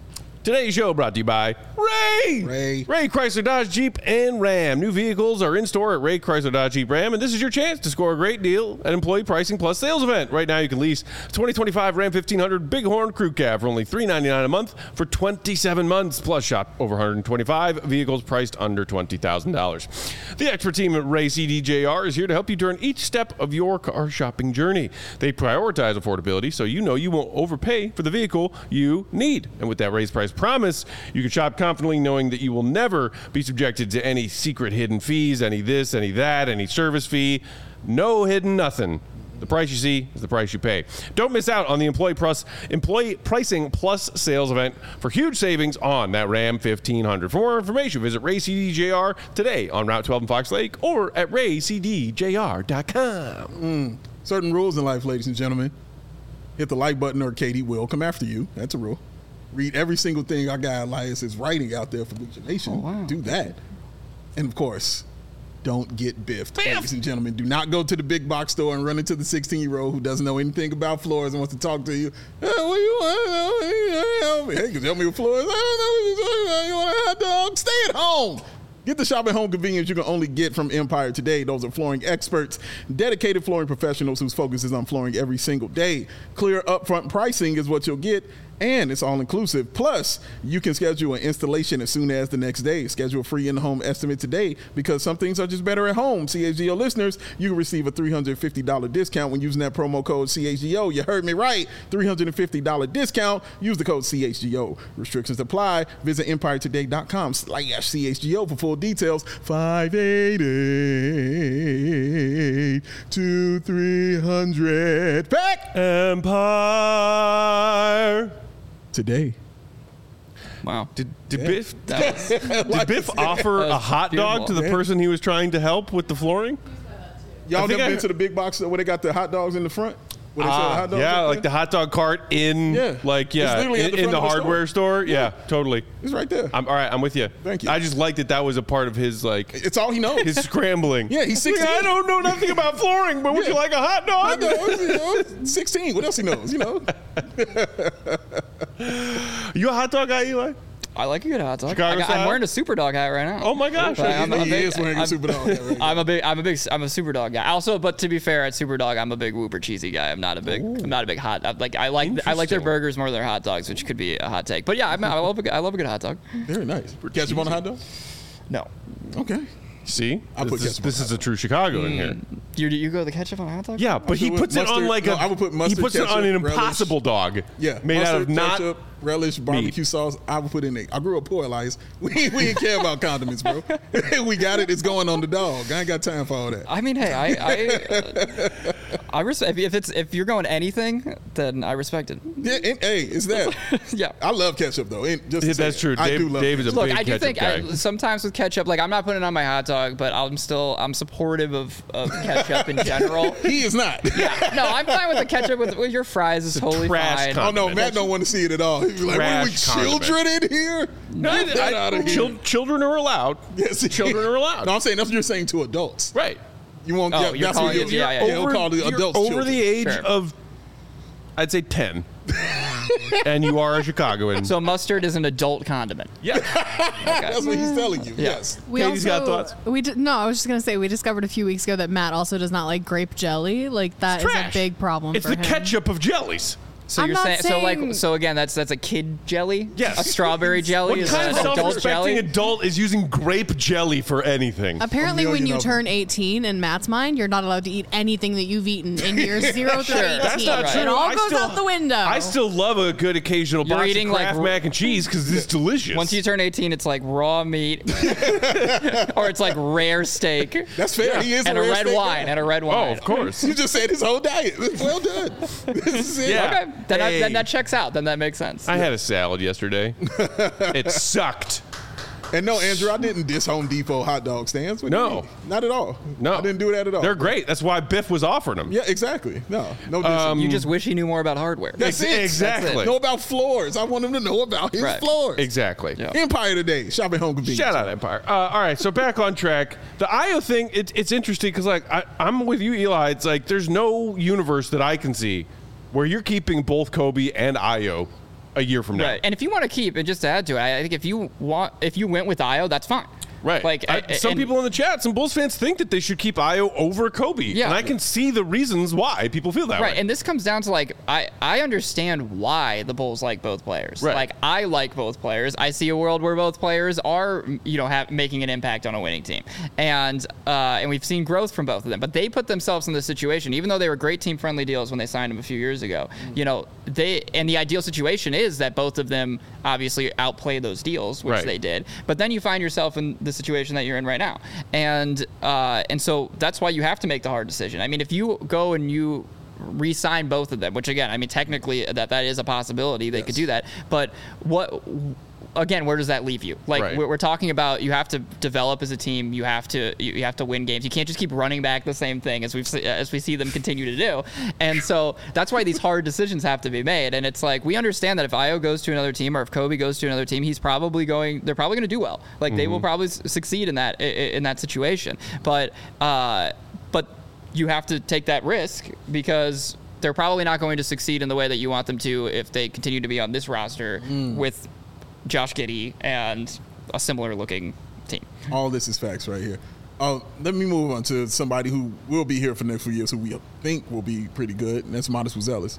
Today's show brought to you by Ray Chrysler Dodge Jeep and Ram. New vehicles are in store at Ray Chrysler Dodge Jeep Ram, and this is your chance to score a great deal at Employee Pricing Plus sales event. Right now you can lease 2025 Ram 1500 Bighorn Crew Cab for only $399 a month for 27 months, plus shop over 125 vehicles priced under $20,000. The expert team at Ray CDJR is here to help you during each step of your car shopping journey. They prioritize affordability so you know you won't overpay for the vehicle you need. And with that raised price promise, you can shop confidently knowing that you will never be subjected to any secret hidden fees, any this, any that, any service fee. No hidden nothing. The price you see is the price you pay. Don't miss out on the Employee Pricing Plus sales event for huge savings on that Ram 1500. For more information, visit Ray CDJR today on Route 12 in Fox Lake or at raycdjr.com. Certain rules in life, ladies and gentlemen. Hit the like button or Katie will come after you. That's a rule. Read every single thing our guy Elias is writing out there for Bleacher Nation. Oh, wow. Do that. And, of course, don't get biffed. Ladies and gentlemen, do not go to the big box store and run into the 16-year-old who doesn't know anything about floors and wants to talk to you. Hey, what do you want? Help me. Hey, can you help me with floors? I don't know what you're talking about. You want a hot dog? Stay at home. Get the shop at home convenience you can only get from Empire Today. Those are flooring experts, dedicated flooring professionals whose focus is on flooring every single day. Clear upfront pricing is what you'll get, and it's all inclusive. Plus, you can schedule an installation as soon as the next day. Schedule a free in-home estimate today because some things are just better at home. CHGO listeners, you can receive a $350 discount when using that promo code CHGO. You heard me right. $350 discount. Use the code CHGO. Restrictions apply. Visit EmpireToday.com/CHGO for full details. 588-2300. Back Empire Today. Wow. Did Biff offer a hot dog to the person he was trying to help with the flooring? Y'all never been to the big box where they got the hot dogs in the front? Where they sell the hot dogs like the hot dog cart in in the hardware store. Yeah, totally. It's right there. All right, I'm with you. Thank you. I just like that was a part of his It's all he knows. his scrambling. Yeah, he's 16. I don't know nothing about flooring, but would you like a hot dog? 16. What else he knows? You a hot dog guy, Eli? I like a good hot dog. Chicago style? I'm wearing a Super Dog hat right now. Oh my gosh! He is wearing a Super Dog hat right now. I'm a Super Dog guy. Also, but to be fair, at Super Dog, I'm a big Whooper cheesy guy. I'm not a big hot. I like their burgers more than their hot dogs, which could be a hot take. But yeah, I love a good hot dog. Very nice. Ketchup on a hot dog? No. Okay. See, this is a true Chicago in here. You go the ketchup on a hot dog? Yeah, but he puts it on like I would put mustard, he puts it on an Impossible dog. Yeah, made mustard, out of not ketchup, relish, barbecue meat. sauce. I would put in it. I grew up poor, Elias. We didn't care about condiments, bro. We got it. It's going on the dog. I ain't got time for all that. I mean, hey, I respect if you're going anything, then I respect it. Yeah, hey, it's that. Yeah, I love ketchup though. That's true. Dave is a big ketchup think guy. Sometimes with ketchup, like I'm not putting it on my hot dog, but I'm supportive of ketchup in general. He is not. Yeah, no, I'm fine with the ketchup with your fries. Is totally fine. Oh no, Matt don't want to see it at all. He'd be like, "What are we, children in here? Get that out of here." Children are allowed. Yes, children are allowed. No, I'm saying that's what you're saying to adults, right? You won't. Oh, that's what you'll call the adults over children. the age of, I'd say 10. And you are a Chicagoan. So mustard is an adult condiment. Yeah. Okay. That's what he's telling you. Yeah. Yes. Katie's got thoughts. I was just gonna say we discovered a few weeks ago that Matt also does not like grape jelly. Like that is a big problem. It's for the him. ketchup of jellies. So I'm you're not saying so again that's a kid jelly? Yes. A strawberry jelly What is kind of an adult self-respecting jelly? adult is using grape jelly for anything? Apparently, when you turn 18, in Matt's mind, you're not allowed to eat anything that you've eaten in years 0 through 18. That's not true. It all goes out the window. I still love a good occasional You're box eating of Kraft mac and cheese because it's delicious. Once you turn 18, it's like raw meat, or it's like rare steak. That's fair. He is and a a rare red steak wine. guy. And a red wine. Oh, of course. You just said his whole diet. Well done. This is it. Yeah. Okay, then that checks out. Then that makes sense. I had a salad yesterday. It sucked. And no, Andrew, I didn't diss Home Depot hot dog stands. What do you No. mean? Not at all. No. I didn't do that at all. They're great. That's why Biff was offering them. Yeah, exactly. No dissing. You just wish he knew more about hardware. That's it. Exactly. That's it. Know about floors. I want him to know about his floors. Exactly. Yeah. Empire Today. Shopping home convenience. Shout out Empire. All right, so back on track. The IO thing, it's interesting because like I'm with you, Eli. It's like there's no universe that I can see where you're keeping both Kobe and IO a year from now. Right. And if you want to keep, and just to add to it, I think if you went with Ayo, that's fine. Right. Like some people in the chat, some Bulls fans think that they should keep Ayo over Kobe. Yeah. And I can see the reasons why people feel that way. Right. And this comes down to like, I understand why the Bulls like both players. Right. Like I like both players. I see a world where both players are, making an impact on a winning team. And we've seen growth from both of them. But they put themselves in this situation, even though they were great team friendly deals when they signed them a few years ago. And the ideal situation is that both of them obviously outplay those deals, which they did. But then you find yourself in the situation that you're in right now. And so that's why you have to make the hard decision. I mean, if you go and you re-sign both of them, which again, I mean, technically that is a possibility. They could do that. But again, where does that leave you? Like we're talking about, you have to develop as a team. You have to win games. You can't just keep running back the same thing as we see them continue to do. And so that's why these hard decisions have to be made. And it's like, we understand that if Ayo goes to another team or if Kobe goes to another team, they're probably going to do well. Like they will probably succeed in that situation. But you have to take that risk because they're probably not going to succeed in the way that you want them to if they continue to be on this roster with Josh Giddey and a similar looking team. All this is facts right here. Let me move on to somebody who will be here for the next few years, who we think will be pretty good, and that's Modest Buzelis.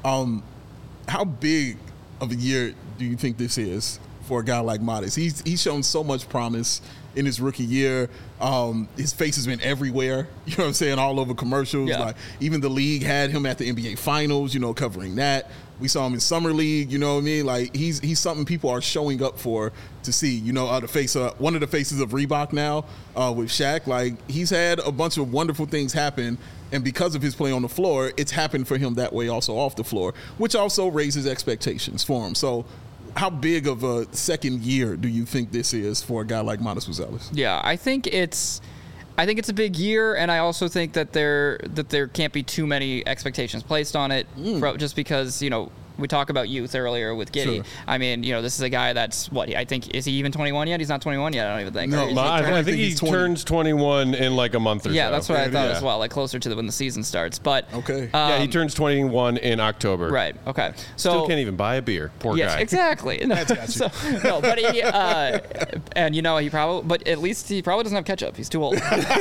How big of a year do you think this is for a guy like Modest? He's shown so much promise in his rookie year. His face has been everywhere, you know what I'm saying, all over commercials. Yeah. Like even the league had him at the NBA Finals, covering that. We saw him in Summer League, you know what I mean? Like he's something people are showing up for to see. The face one of the faces of Reebok now with Shaq. Like he's had a bunch of wonderful things happen, and because of his play on the floor, it's happened for him that way also off the floor, which also raises expectations for him. So how big of a second year do you think this is for a guy like Modest Buzelis? Yeah, I think it's a big year, and I also think that there can't be too many expectations placed on it, just because we talk about youth earlier with Giddey. Sure. I mean, this is a guy that's I think, is he even 21 yet? He's not 21 yet, I don't even think. No, I think he turns 21 in like a month or so. Yeah, that's what I thought as well, like closer to when the season starts. But okay. He turns 21 in October. Right, okay. So still can't even buy a beer. Poor guy. Exactly. That's got you. But he, and he probably, but at least he probably doesn't have ketchup. He's too old.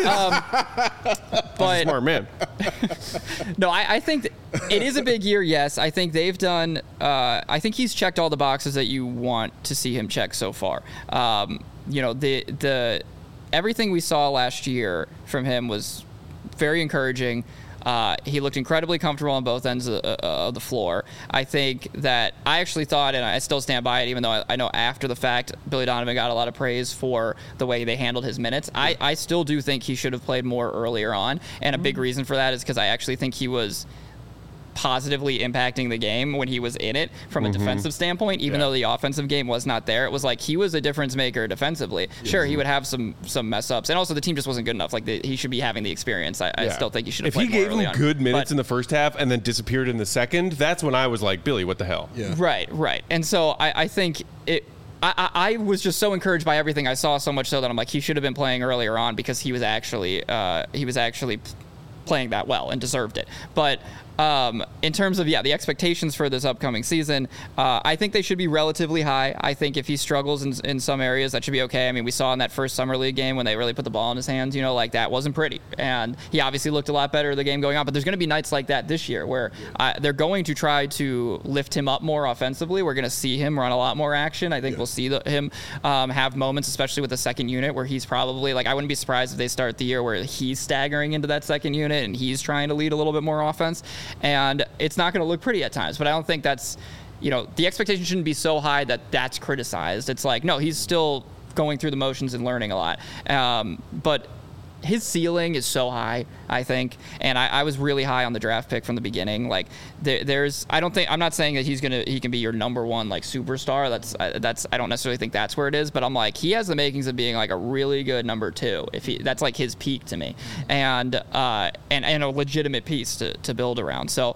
But smart man. No, I think it is a big year, yes. I think they've done, I think he's checked all the boxes that you want to see him check so far. The everything we saw last year from him was very encouraging. He looked incredibly comfortable on both ends of the floor. I think that I actually thought, and I still stand by it, even though I know after the fact Billy Donovan got a lot of praise for the way they handled his minutes. I still do think he should have played more earlier on, and a big reason for that is because I actually think he was positively impacting the game when he was in it from a defensive standpoint, even though the offensive game was not there. It was like he was a difference maker defensively. Sure, he would have some mess ups, and also the team just wasn't good enough. Like he should be having the experience. I still think he should have played more early on. If he gave him good minutes in the first half and then disappeared in the second, that's when I was like, Billy, what the hell? Yeah. Right. And so I think it. I was just so encouraged by everything I saw, so much so that I'm like, he should have been playing earlier on because he was actually playing that well and deserved it. But in terms of, the expectations for this upcoming season, I think they should be relatively high. I think if he struggles in some areas, that should be okay. I mean, we saw in that first Summer League game when they really put the ball in his hands, like that wasn't pretty. And he obviously looked a lot better the game going on. But there's going to be nights like that this year where they're going to try to lift him up more offensively. We're going to see him run a lot more action. I think we'll see him have moments, especially with the second unit, where he's probably, I wouldn't be surprised if they start the year where he's staggering into that second unit and he's trying to lead a little bit more offense. And it's not going to look pretty at times, but I don't think that's, the expectation shouldn't be so high that that's criticized. It's like, no, he's still going through the motions and learning a lot. But his ceiling is so high, I think, and I was really high on the draft pick from the beginning. Like I'm not saying that he can be your number one superstar. That's I don't necessarily think that's where it is, but I'm like, he has the makings of being a really good number two. That's his peak to me, and a legitimate piece to build around. So,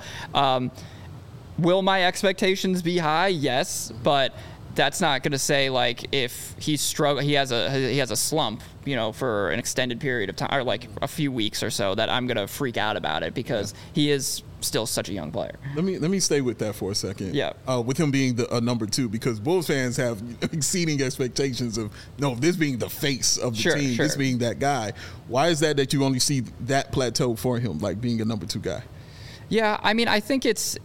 will my expectations be high? Yes, but that's not going to say if he has a slump, for an extended period of time or a few weeks or so, that I'm going to freak out about it, because he is still such a young player. Let me stay with that for a second. Yeah. With him being a number 2, because Bulls fans have exceeding expectations of this being the face of the team, this being that guy. Why is that you only see that plateau for him, like being a number 2 guy? Yeah, I mean, I think it's.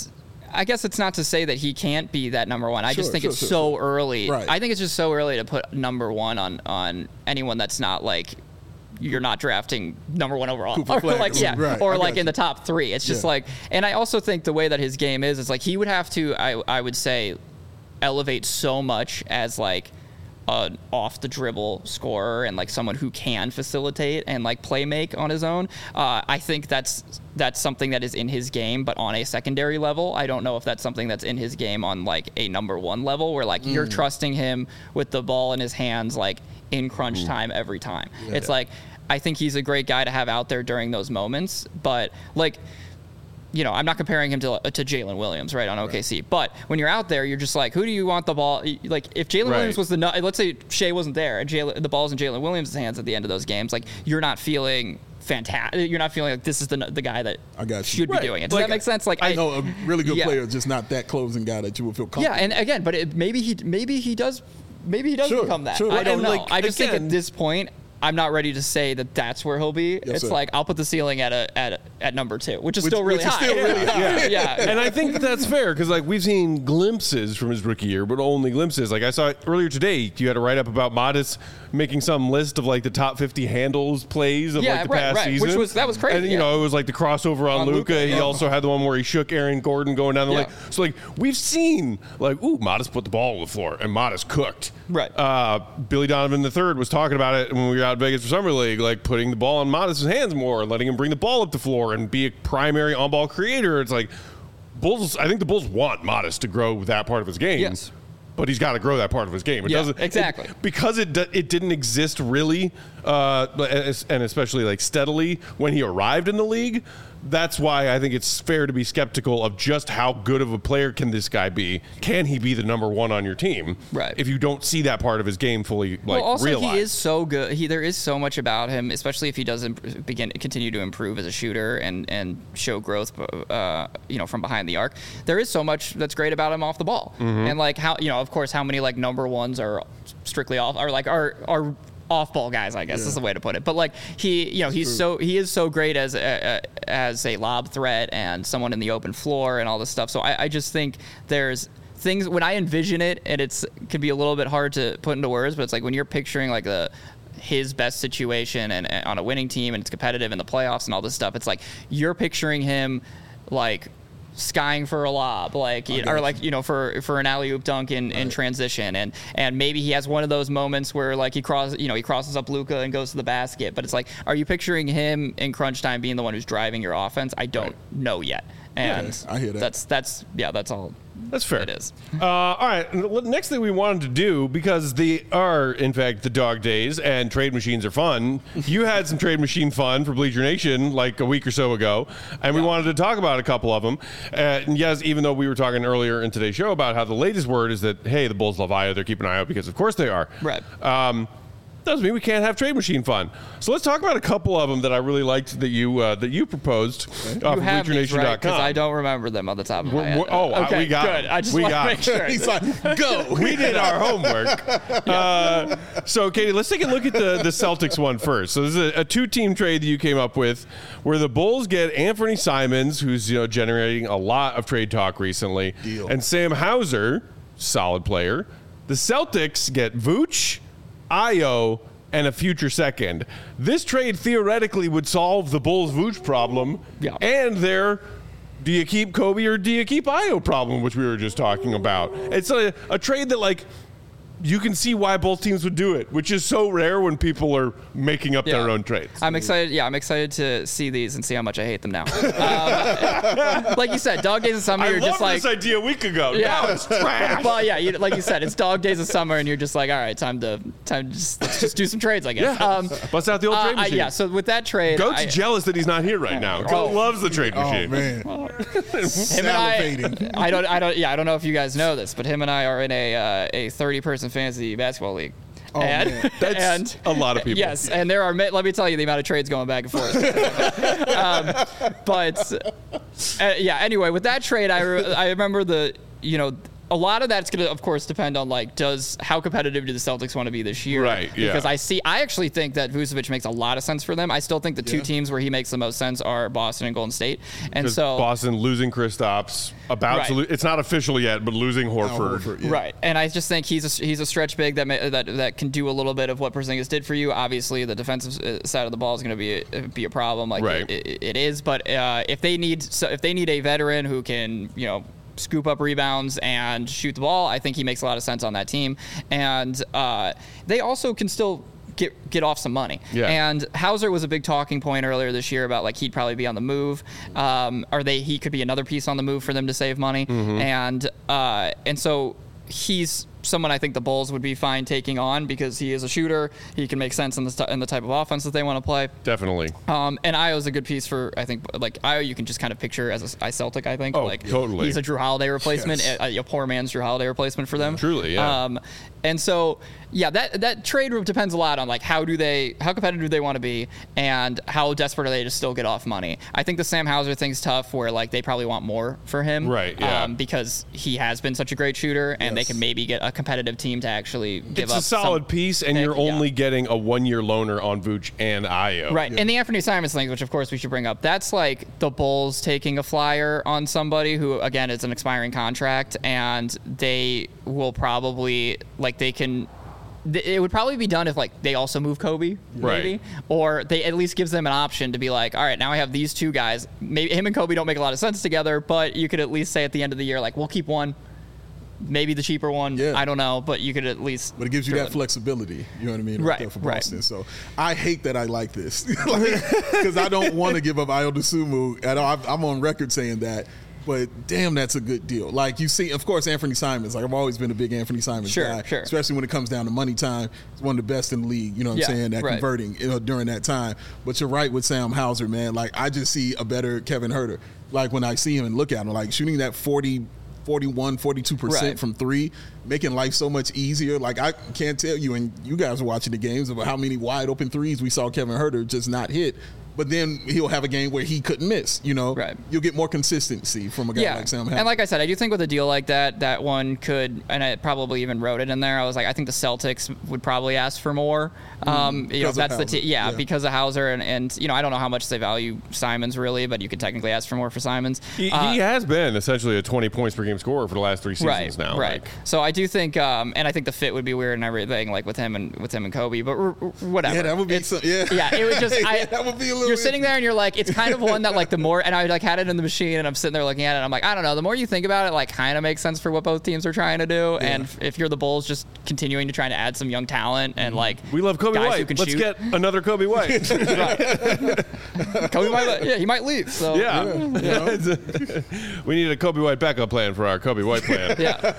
I guess it's not to say that he can't be that number 1. I just think it's so early. Right. I think it's just so early to put number 1 on anyone that's not like you're not drafting number 1 overall, or like or like in the top 3. It's just like, and I also think the way that his game is like he would have to, I would say, elevate so much as like an off the dribble scorer and like someone who can facilitate and like play make on his own. I think that's something that is in his game, but on a secondary level. I don't know if that's something that's in his game on like a number 1 level where like you're trusting him with the ball in his hands like in crunch time every time. It's like, I think he's a great guy to have out there during those moments, but like, you know, I'm not comparing him to Jalen Williams, right, on OKC. But when you're out there, you're just like, who do you want the ball? Like, if Jalen Williams was let's say Shea wasn't there and the ball's in Jalen Williams' hands at the end of those games, like, you're not feeling fantastic. You're not feeling like this is the guy that should be doing it. Does that make sense? Like, I know a really good player, just not that closing guy that you would feel comfortable. Yeah, and again, but maybe he does become that. I don't know. Like, I just think at this point, I'm not ready to say that that's where he'll be. It's like I'll put the ceiling at number 2, which is still really high. Yeah. And I think that's fair because like we've seen glimpses from his rookie year, but only glimpses. Like I saw earlier today, you had a write up about Modest making some list of like the top 50 handles plays of like the past season. That was crazy. And you know, it was like the crossover on Luka. He also had the one where he shook Aaron Gordon going down the lane. So like we've seen like, Modest put the ball on the floor and Modest cooked. Right. Billy Donovan III was talking about it when we were out in Vegas for Summer League, like putting the ball in Modest's hands more, letting him bring the ball up the floor and be a primary on-ball creator. It's like I think the Bulls want Modest to grow that part of his game. Yes. But he's got to grow that part of his game. It doesn't exactly because it didn't exist really, and especially like steadily when he arrived in the league. That's why I think it's fair to be skeptical of just how good of a player can this guy be. Can he be the number 1 on your team? Right. If you don't see that part of his game fully also, realized. He is so good. There is so much about him, especially if he doesn't continue to improve as a shooter and show growth, from behind the arc. There is so much that's great about him off the ball, and like how of course how many like number 1s are strictly off, or like are off-ball guys, I guess is the way to put it. But like he is so great as a lob threat and someone in the open floor and all this stuff. So I just think there's things when I envision it, and it can be a little bit hard to put into words, but it's like when you're picturing like his best situation and on a winning team and it's competitive in the playoffs and all this stuff. It's like you're picturing him like skying for a lob, like for an alley-oop dunk in transition, and maybe he has one of those moments where like he crosses up Luka and goes to the basket. But it's like, are you picturing him in crunch time being the one who's driving your offense? I don't know yet, and I hear that. That's all. That's fair. It is. All right. Next thing we wanted to do, because they are, in fact, the dog days and trade machines are fun. You had some trade machine fun for Bleacher Nation like a week or so ago, and we wanted to talk about a couple of them. And yes, even though we were talking earlier in today's show about how the latest word is that, hey, the Bulls love Ayo, they're keeping an eye out because, of course, they are. Right. Doesn't mean we can't have trade machine fun. So let's talk about a couple of them that I really liked that you proposed off of BleacherNation.com. Right, because I don't remember them on the top of my head. Okay, we got good. it. I just want to make sure. He's like, go. We did our homework. So, Katie, let's take a look at the Celtics one first. So this is a 2-team trade that you came up with where the Bulls get Anthony Simons, who's generating a lot of trade talk recently, and Sam Hauser, solid player. The Celtics get Vooch, Ayo, and a future second. This trade theoretically would solve the Bulls' Vooch problem and their do you keep Kobe or do you keep Ayo problem, which we were just talking about. It's a trade that, like, you can see why both teams would do it, which is so rare when people are making up their own trades. I'm excited. Yeah, I'm excited to see these and see how much I hate them now. Like you said, dog days of summer. You're just like, this idea a week ago. Yeah, now it's trash. Well, yeah, like you said, it's dog days of summer, and you're just like, all right, let's just do some trades, I guess. Yeah. Bust out the old trade machine. Yeah. So with that trade, Goat's jealess that he's not here right now. Goat loves the trade machine. Oh man, him and I don't know if you guys know this, but him and I are in a 30-person fantasy basketball league. and that's a lot of people. Yes, and there are. Let me tell you the amount of trades going back and forth. Yeah. Anyway, with that trade, I remember a lot of that's going to, of course, depend on how competitive do the Celtics want to be this year? Right. Yeah. Because I actually think that Vucevic makes a lot of sense for them. I still think the two teams where he makes the most sense are Boston and Golden State. And so Boston losing Kristaps, it's not official yet, but losing Horford. Yeah. Right. And I just think he's a stretch big that can do a little bit of what Porzingis did for you. Obviously, the defensive side of the ball is going to be a problem. It is. But if they need a veteran who can scoop up rebounds and shoot the ball, I think he makes a lot of sense on that team. And they also can still get off some money. Yeah. And Hauser was a big talking point earlier this year about he'd probably be on the move, he could be another piece on the move for them to save money. Mm-hmm. And so he's someone I think the Bulls would be fine taking on because he is a shooter. He can make sense in the type of offense that they want to play. Definitely. And Ayo's a good piece for, I think, Ayo you can just kind of picture as a Celtic, I think. Oh, totally. He's a Drew Holiday replacement, a poor man's Drew Holiday replacement for them. Truly, yeah. And so, yeah, that trade depends a lot on how competitive do they want to be and how desperate are they to still get off money. I think the Sam Hauser thing's tough where they probably want more for him. Right, yeah. Because he has been such a great shooter and they can maybe get a competitive team to actually give up. It's a solid piece and you're only getting a 1-year loaner on Vooch and Ayo. Right. Yeah. And the Anthony Simons thing, which of course we should bring up, that's the Bulls taking a flyer on somebody who, again, is an expiring contract and they will probably, it would probably be done if they also move Kobe, maybe, right? Or they at least gives them an option to be all right, now I have these two guys. Maybe him and Kobe don't make a lot of sense together, but you could at least say at the end of the year, we'll keep one, maybe the cheaper one. Yeah. I don't know, but you could at least. But it gives you that flexibility. You know what I mean? Right. For Boston. Right. So I hate that I like this because I don't want to give up Ayo Dosunmu at all. I'm on record saying that. But damn, that's a good deal. You see, of course, Anthony Simons. I've always been a big Anthony Simons guy, especially when it comes down to money time. He's one of the best in the league. You know what I'm saying? That converting during that time. But you're right with Sam Hauser, man. I just see a better Kevin Huerter. When I see him and look at him, shooting that 41, 42% from three, making life so much easier. I can't tell you, and you guys are watching the games, about how many wide open threes we saw Kevin Huerter just not hit. But then he'll have a game where he couldn't miss, Right. You'll get more consistency from a guy like Sam Hauser. And like I said, I do think with a deal like that one could, and I probably even wrote it in there, I was I think the Celtics would probably ask for more. That's the because of Hauser. And I don't know how much they value Simons really, but you could technically ask for more for Simons. He has been essentially a 20 points per game scorer for the last 3 seasons now. Right. So I do think, and I think the fit would be weird and everything, with him and Kobe, but whatever. Yeah, that would be Yeah, it would just, that would be a little you're sitting there and you're it's kind of one that the more, and I had it in the machine and I'm sitting there looking at it and I'm I don't know, the more you think about it, kind of makes sense for what both teams are trying to do. Yeah. And if you're the Bulls, just continuing to try to add some young talent and we love Kobe White. Let's get another Kobe White. Kobe White, he might leave. So we need a Kobe White backup plan for our Kobe White plan. Yeah.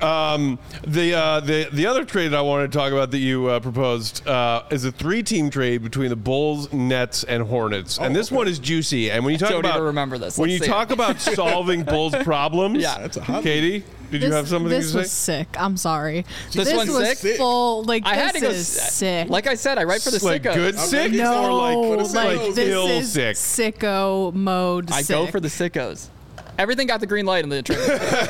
The other trade that I wanted to talk about that you proposed is a 3-team trade between the Bulls, Nets, and Hornets. And this one is juicy. And when you talk about remember this. When you talk about solving Bulls problems, that's a hot Katie, did you have something to say? This was sick. I'm sorry. This one's was sick? Full, I had to go sick. Like I said, I write for the sickos. Good sick? No, this ill is sick. Sicko mode. I go for the sickos. Everything got the green light in the trade.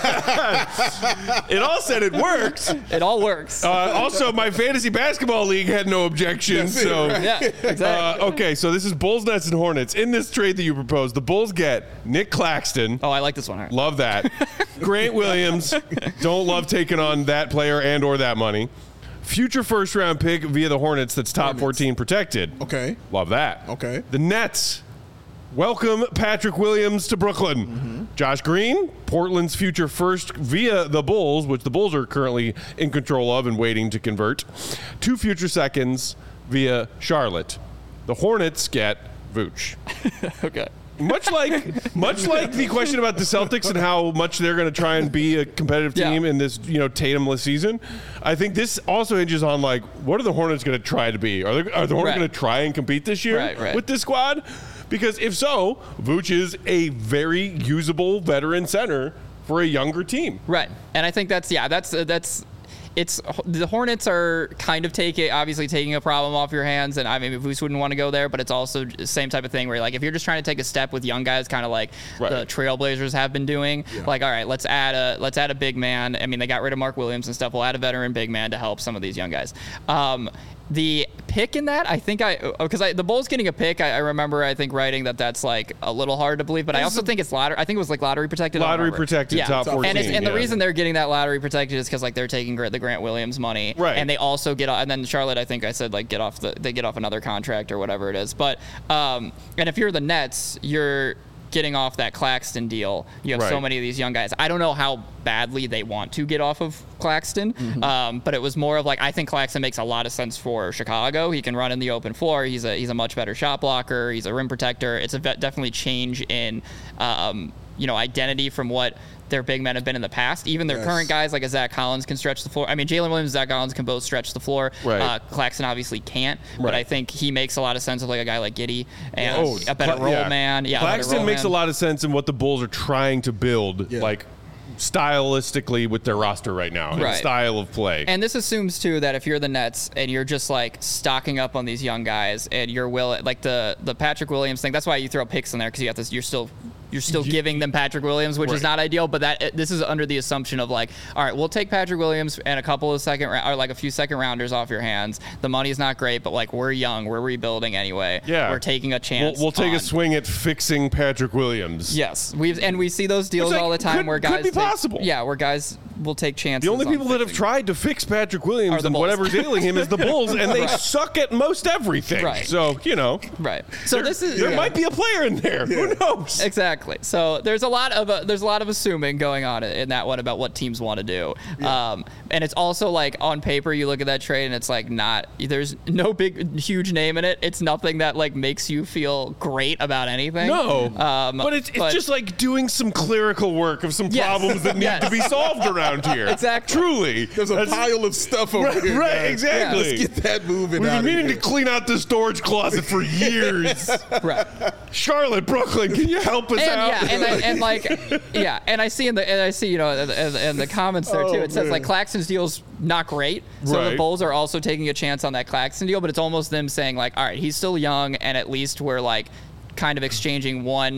It all said it worked. It all works. Also, my fantasy basketball league had no objection. Yeah, exactly. Okay, so this is Bulls, Nets, and Hornets. In this trade that you proposed, the Bulls get Nick Claxton. Oh, I like this one. Right. Love that. Grant Williams. Don't love taking on that player and or that money. Future first-round pick via the Hornets that's top 14 protected. Okay. Love that. Okay. The Nets. Welcome Patrick Williams to Brooklyn. Mm-hmm. Josh Green, Portland's future first via the Bulls, which the Bulls are currently in control of and waiting to convert. 2 future seconds via Charlotte. The Hornets get Vooch. Okay. Much like the question about the Celtics and how much they're going to try and be a competitive team in this Tatumless season, I think this also hinges on what are the Hornets going to try to be? Are the Hornets going to try and compete this year with this squad? Because if so, Vooch is a very usable veteran center for a younger team. Right. And I think that's it's the Hornets are kind of obviously taking a problem off your hands, and I mean, Vooch wouldn't want to go there, but it's also the same type of thing where like if you're just trying to take a step with young guys, kind of like the Trailblazers have been doing, like all right, let's add a big man. I mean, they got rid of Mark Williams and stuff. We'll add a veteran big man to help some of these young guys. The pick in that, I think because the Bulls getting a pick, I remember I think writing that's like a little hard to believe, but I also think it's lottery. I think it was like lottery protected. Lottery protected, top 14. And the reason they're getting that lottery protected is because like they're taking the Grant Williams money, right? And they also get, and then Charlotte, I think I said like they get off another contract or whatever it is. But and if you're the Nets, you're getting off that Claxton deal. You have so many of these young guys. I don't know how badly they want to get off of Claxton, but it was more of like I think Claxton makes a lot of sense for Chicago. He can run in the open floor. He's a much better shot blocker. He's a rim protector. It's a definitely change in identity from what their big men have been in the past. Even their current guys like a Zach Collins can stretch the floor. I mean, Jalen Williams and Zach Collins can both stretch the floor. Right. Claxton obviously can't, but I think he makes a lot of sense of like a guy like Giddey and a better role man. Yeah, Claxton makes a lot of sense in what the Bulls are trying to build, like stylistically with their roster right now, and style of play. And this assumes too that if you're the Nets and you're just like stocking up on these young guys and you're like the Patrick Williams thing, that's why you throw picks in there because you have this. You're still giving them Patrick Williams, which is not ideal, but this is under the assumption of like, all right, we'll take Patrick Williams and a couple of a few second rounders off your hands. The money's not great, but like we're young, we're rebuilding anyway. Yeah, we're taking a chance. We'll take a swing at fixing Patrick Williams. Yes, we see those deals all the time where guys could be possible. Yeah, where guys will take chances. The only people that have tried to fix Patrick Williams and whatever's ailing him is the Bulls, and they suck at most everything. Right. So So there might be a player in there. Yeah. Who knows? Exactly. So there's a lot of assuming going on in that one about what teams want to do. Yeah. And it's also like on paper you look at that trade and it's like there's no big huge name in it. It's nothing that like makes you feel great about anything. No. But it's just like doing some clerical work of some problems that need to be solved around here. Exactly. Truly. There's a pile of stuff over here. Right, exactly. Let's get that moving. We've been meaning to clean out the storage closet for years. Right. Charlotte, Brooklyn, can you help us out? Yeah, and I see in the comments there too. It says like Claxton's deal's not great, so the Bulls are also taking a chance on that Claxton deal, but it's almost them saying like, all right, he's still young, and at least we're like kind of exchanging one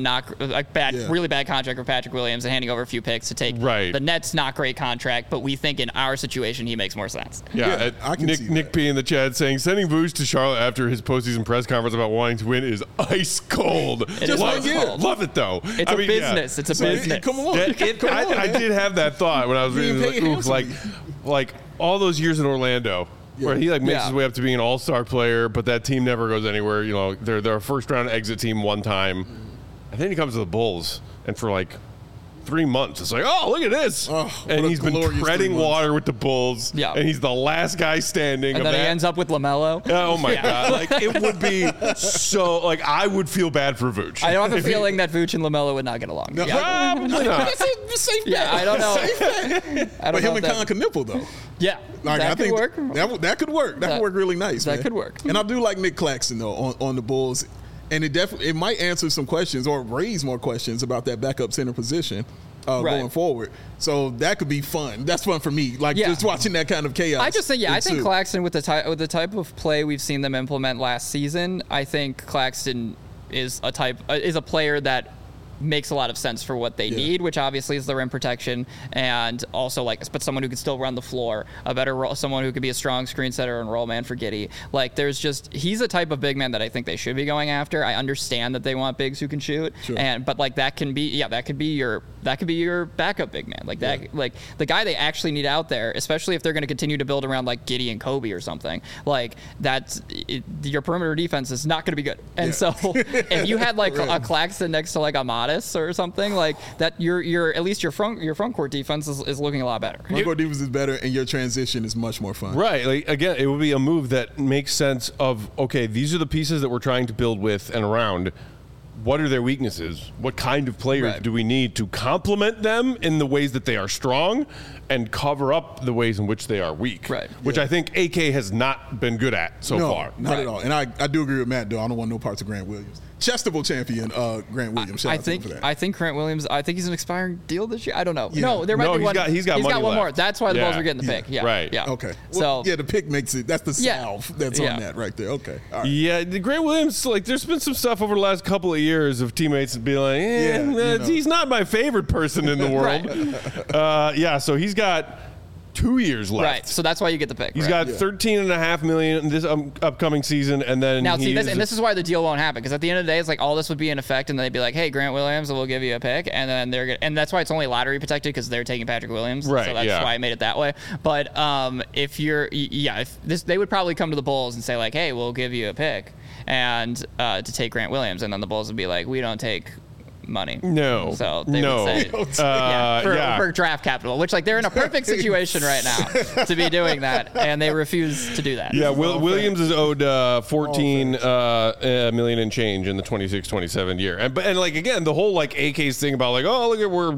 really bad contract for Patrick Williams and handing over a few picks to take the Nets not great contract, but we think in our situation he makes more sense. Yeah, Nick P in the chat saying sending Vooch to Charlotte after his postseason press conference about wanting to win is ice cold. Love it though. It's a business. It's a business. Come on. I did have that thought when I was reading like all those years in Orlando. Yeah. Where he makes his way up to being an all-star player, but that team never goes anywhere. You know, they're a first-round exit team one time, and then he comes to the Bulls, and for like 3 months, it's like, oh, look at this, and he's been treading water with the Bulls, and he's the last guy standing. And then he ends up with LaMelo. Oh my God! Like it would be so. Like I would feel bad for Vooch. I don't have a feeling that Vooch and LaMelo would not get along. No, probably not. That's a safe bet. Yeah, I don't know. But him and Colin could nipple though. Yeah, I think that could work. That could work really nice. That could work. And I do like Nick Claxton though on the Bulls, and it might answer some questions or raise more questions about that backup center position going forward. So that could be fun. That's fun for me. Just watching that kind of chaos. I just think I think Claxton with the type of play we've seen them implement last season, I think Claxton is a player that makes a lot of sense for what they need, which obviously is the rim protection, and also but someone who can still run the floor, someone who could be a strong screen setter and roll man for Giddey. Like he's a type of big man that I think they should be going after. I understand that they want bigs who can shoot, but that can be your backup big man, like the guy they actually need out there, especially if they're going to continue to build around like Giddey and Kobe or something like that. Your perimeter defense is not going to be good, and so if you had a Claxton next to like a Modest or something like that, your at least your front court defense is looking a lot better. Front court defense is better, and your transition is much more fun. Right. Like again, it would be a move that makes sense of these are the pieces that we're trying to build with and around. What are their weaknesses? What kind of players do we need to complement them in the ways that they are strong and cover up the ways in which they are weak? Right. Which I think AK has not been good at so far. Not at all. And I do agree with Matt, though. I don't want no parts of Grant Williams. Chestable champion, Grant Williams. Shout out to him for that. I think Grant Williams. I think he's an expiring deal this year. I don't know. Yeah. No, there might be one. He's got one left. more. That's why the Bulls are getting the pick. Yeah. Right. Yeah. Okay. Well, So the pick makes it. That's the salve that's on that right there. Okay. All right. Yeah, Grant Williams, like, there's been some stuff over the last couple of years of teammates being like, he's not my favorite person in the world. So he's got 2 years left. Right. So that's why you get the pick. He's got $13.5 million in this upcoming season, and then now see this is why the deal won't happen, because at the end of the day, it's like all this would be in effect, and they'd be like, "Hey, Grant Williams, we'll give you a pick," and then and that's why it's only lottery protected, because they're taking Patrick Williams. Right. So that's why I made it that way. But they would probably come to the Bulls and say like, "Hey, we'll give you a pick," and to take Grant Williams, and then the Bulls would be like, "We don't take money." No. So they would say, for draft capital, which, like, they're in a perfect situation right now to be doing that, and they refuse to do that. Yeah, Williams is owed $14 million and change in the 26-27 year. And like, again, the whole like AK's thing about like, oh, look at, we're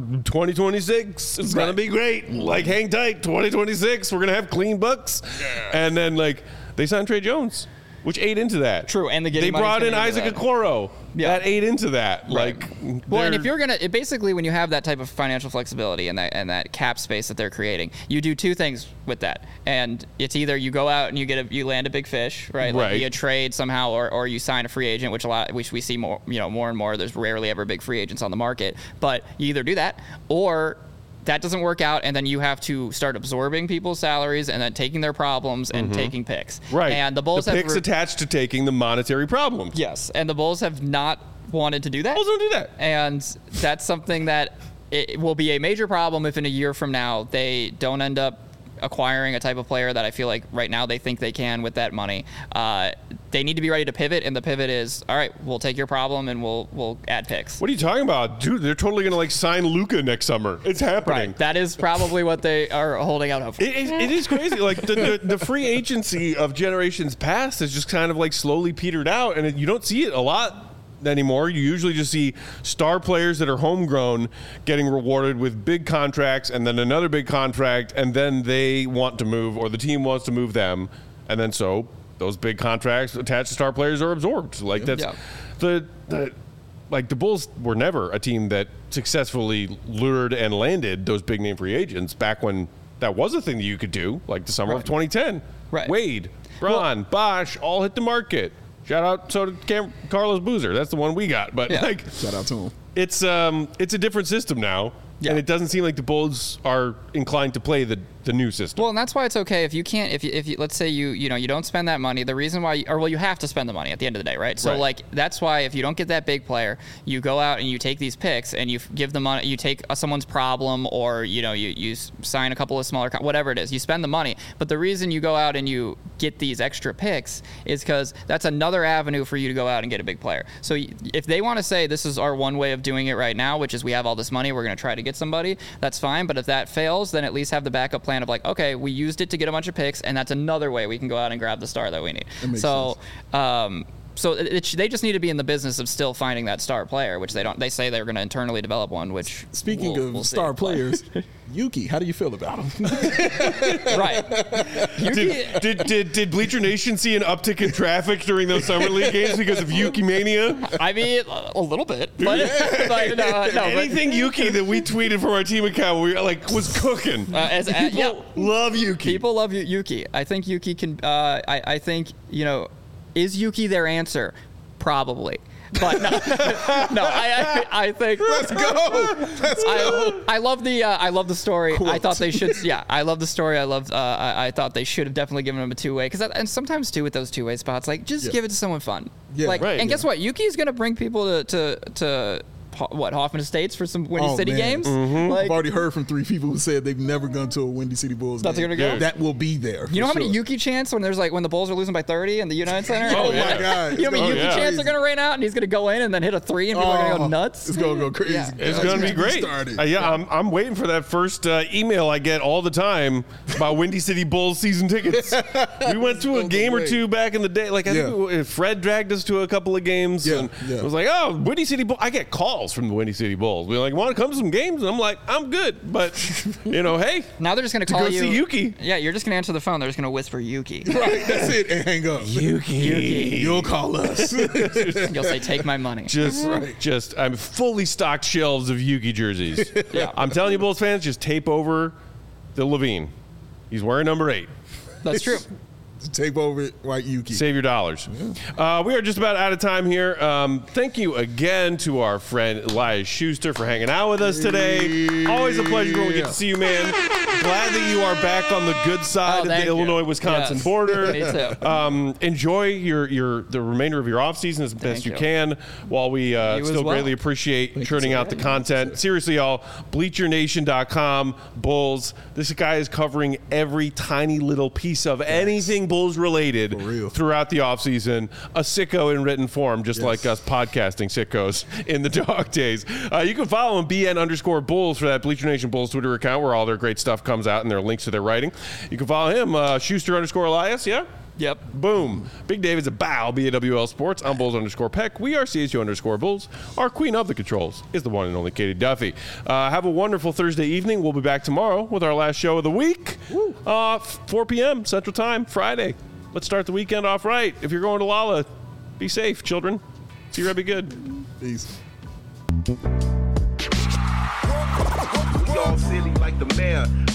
2026, it's gonna be great. Like, hang tight, 2026, we're gonna have clean books. Yeah. And then like they signed Trey Jones, which ate into that. True, and they brought in Isaac Okoro. Yeah. That ate into that. Right. Like, well, and if you're basically, when you have that type of financial flexibility and that cap space that they're creating, you do two things with that, and it's either you go out and you land a big fish, right? Like via trade somehow, or you sign a free agent, which we see more and more. There's rarely ever big free agents on the market, but you either do that or that doesn't work out, and then you have to start absorbing people's salaries and then taking their problems and taking picks. Right. And the Bulls have picks attached to taking the monetary problems. Yes, and the Bulls have not wanted to do that. Bulls don't do that. And that's something that it will be a major problem if in a year from now they don't end up acquiring a type of player that I feel like right now they think they can with that money. They need to be ready to pivot, and the pivot is, all right, we'll take your problem and we'll add picks. What are you talking about? Dude, they're totally going to like sign Luka next summer. It's happening. Right. That is probably what they are holding out hope for. It is crazy. Like the free agency of generations past has just kind of like slowly petered out, and you don't see it a lot anymore. You usually just see star players that are homegrown getting rewarded with big contracts, and then another big contract, and then they want to move, or the team wants to move them, and then so those big contracts attached to star players are absorbed. Like that's the Bulls were never a team that successfully lured and landed those big name free agents back when that was a thing that you could do, like the summer of 2010. Right. Wade, Braun, Bosh all hit the market. Shout out, so did Carlos Boozer. That's the one we got. But shout out to him. It's a different system now, and it doesn't seem like the Bulls are inclined to play the new system. Well, and that's why it's okay if you can't, if you let's say you don't spend that money. The reason why, you have to spend the money at the end of the day, right? So like that's why if you don't get that big player, you go out and you take these picks and you give the money, you take someone's problem, or you sign a couple of smaller, whatever it is, you spend the money. But the reason you go out and you get these extra picks is because that's another avenue for you to go out and get a big player. So if they want to say this is our one way of doing it right now, which is we have all this money, we're going to try to get somebody, that's fine. But if that fails, then at least have the backup plan of like, okay, we used it to get a bunch of picks, and that's another way we can go out and grab the star that we need. So they just need to be in the business of still finding that star player, which they don't. They say they're going to internally develop one. Which speaking of star players, Yuki, how do you feel about him? Right. Did Bleacher Nation see an uptick in traffic during those summer league games because of Yuki mania? I mean, a little bit. But, anything Yuki that we tweeted from our team account, we was cooking. People love Yuki. People love Yuki. I think Yuki can. I think is Yuki their answer? Probably. But no, I think let's go. I love the story. Quote. I thought they should. Yeah, I love the story. I thought they should have definitely given him a two-way, and sometimes too with those two-way spots, like just give it to someone fun. Yeah, guess what? Yuki is going to bring people to Hoffman Estates for some Windy City games. Mm-hmm. I've already heard from 3 people who said they've never gone to a Windy City Bulls game. Gonna go? That will be there. You know how many Yuki chants when when the Bulls are losing by 30 in the United Center? Oh my God! You know how many Yuki chants are going to rain out, and he's going to go in and then hit a 3, and people are going to go nuts. It's going to go crazy. Yeah. It's going to be great. I'm waiting for that first email I get all the time about Windy City Bulls season tickets. We went to a game or two back in the day. Like I think Fred dragged us to a couple of games, and it was like, oh, Windy City Bulls. I get calls emails from the Windy City Bulls. We're like, want to come to some games? And I'm like, I'm good. But, hey. Now they're just going to call you. See Yuki. Yeah, you're just going to answer the phone. They're just going to whisper Yuki. Right, that's it. And hang up. Yuki. You'll call us. You'll say, take my money. I'm fully stocked shelves of Yuki jerseys. Yeah. I'm telling you, Bulls fans, just tape over the Levine. He's wearing number 8. That's true. Tape over White Yuki. Save your dollars. Yeah. We are just about out of time here. Thank you again to our friend Elias Schuster for hanging out with us today. Always a pleasure when we get to see you, man. Glad that you are back on the good side of the Illinois-Wisconsin border. Me too. Enjoy the remainder of your offseason as best you can, while we still greatly appreciate churning out the content. Seriously, y'all, BleacherNation.com, Bulls. This guy is covering every tiny little piece of anything Bulls related throughout the offseason. A sicko in written form, just like us podcasting sickos in the dog days. You can follow him, BN_Bulls, for that Bleacher Nation Bulls Twitter account where all their great stuff comes out and their links to their writing. You can follow him, Schuster_Elias, yeah? Yep. Boom. Big David's a bow, BAWL Sports. I'm Bulls_Peck. We are CSU_Bulls. Our queen of the controls is the one and only Katie Duffy. Have a wonderful Thursday evening. We'll be back tomorrow with our last show of the week. 4 p.m. Central Time, Friday. Let's start the weekend off right. If you're going to Lala, be safe, children. See you, be good. Peace. We all silly like the mayor.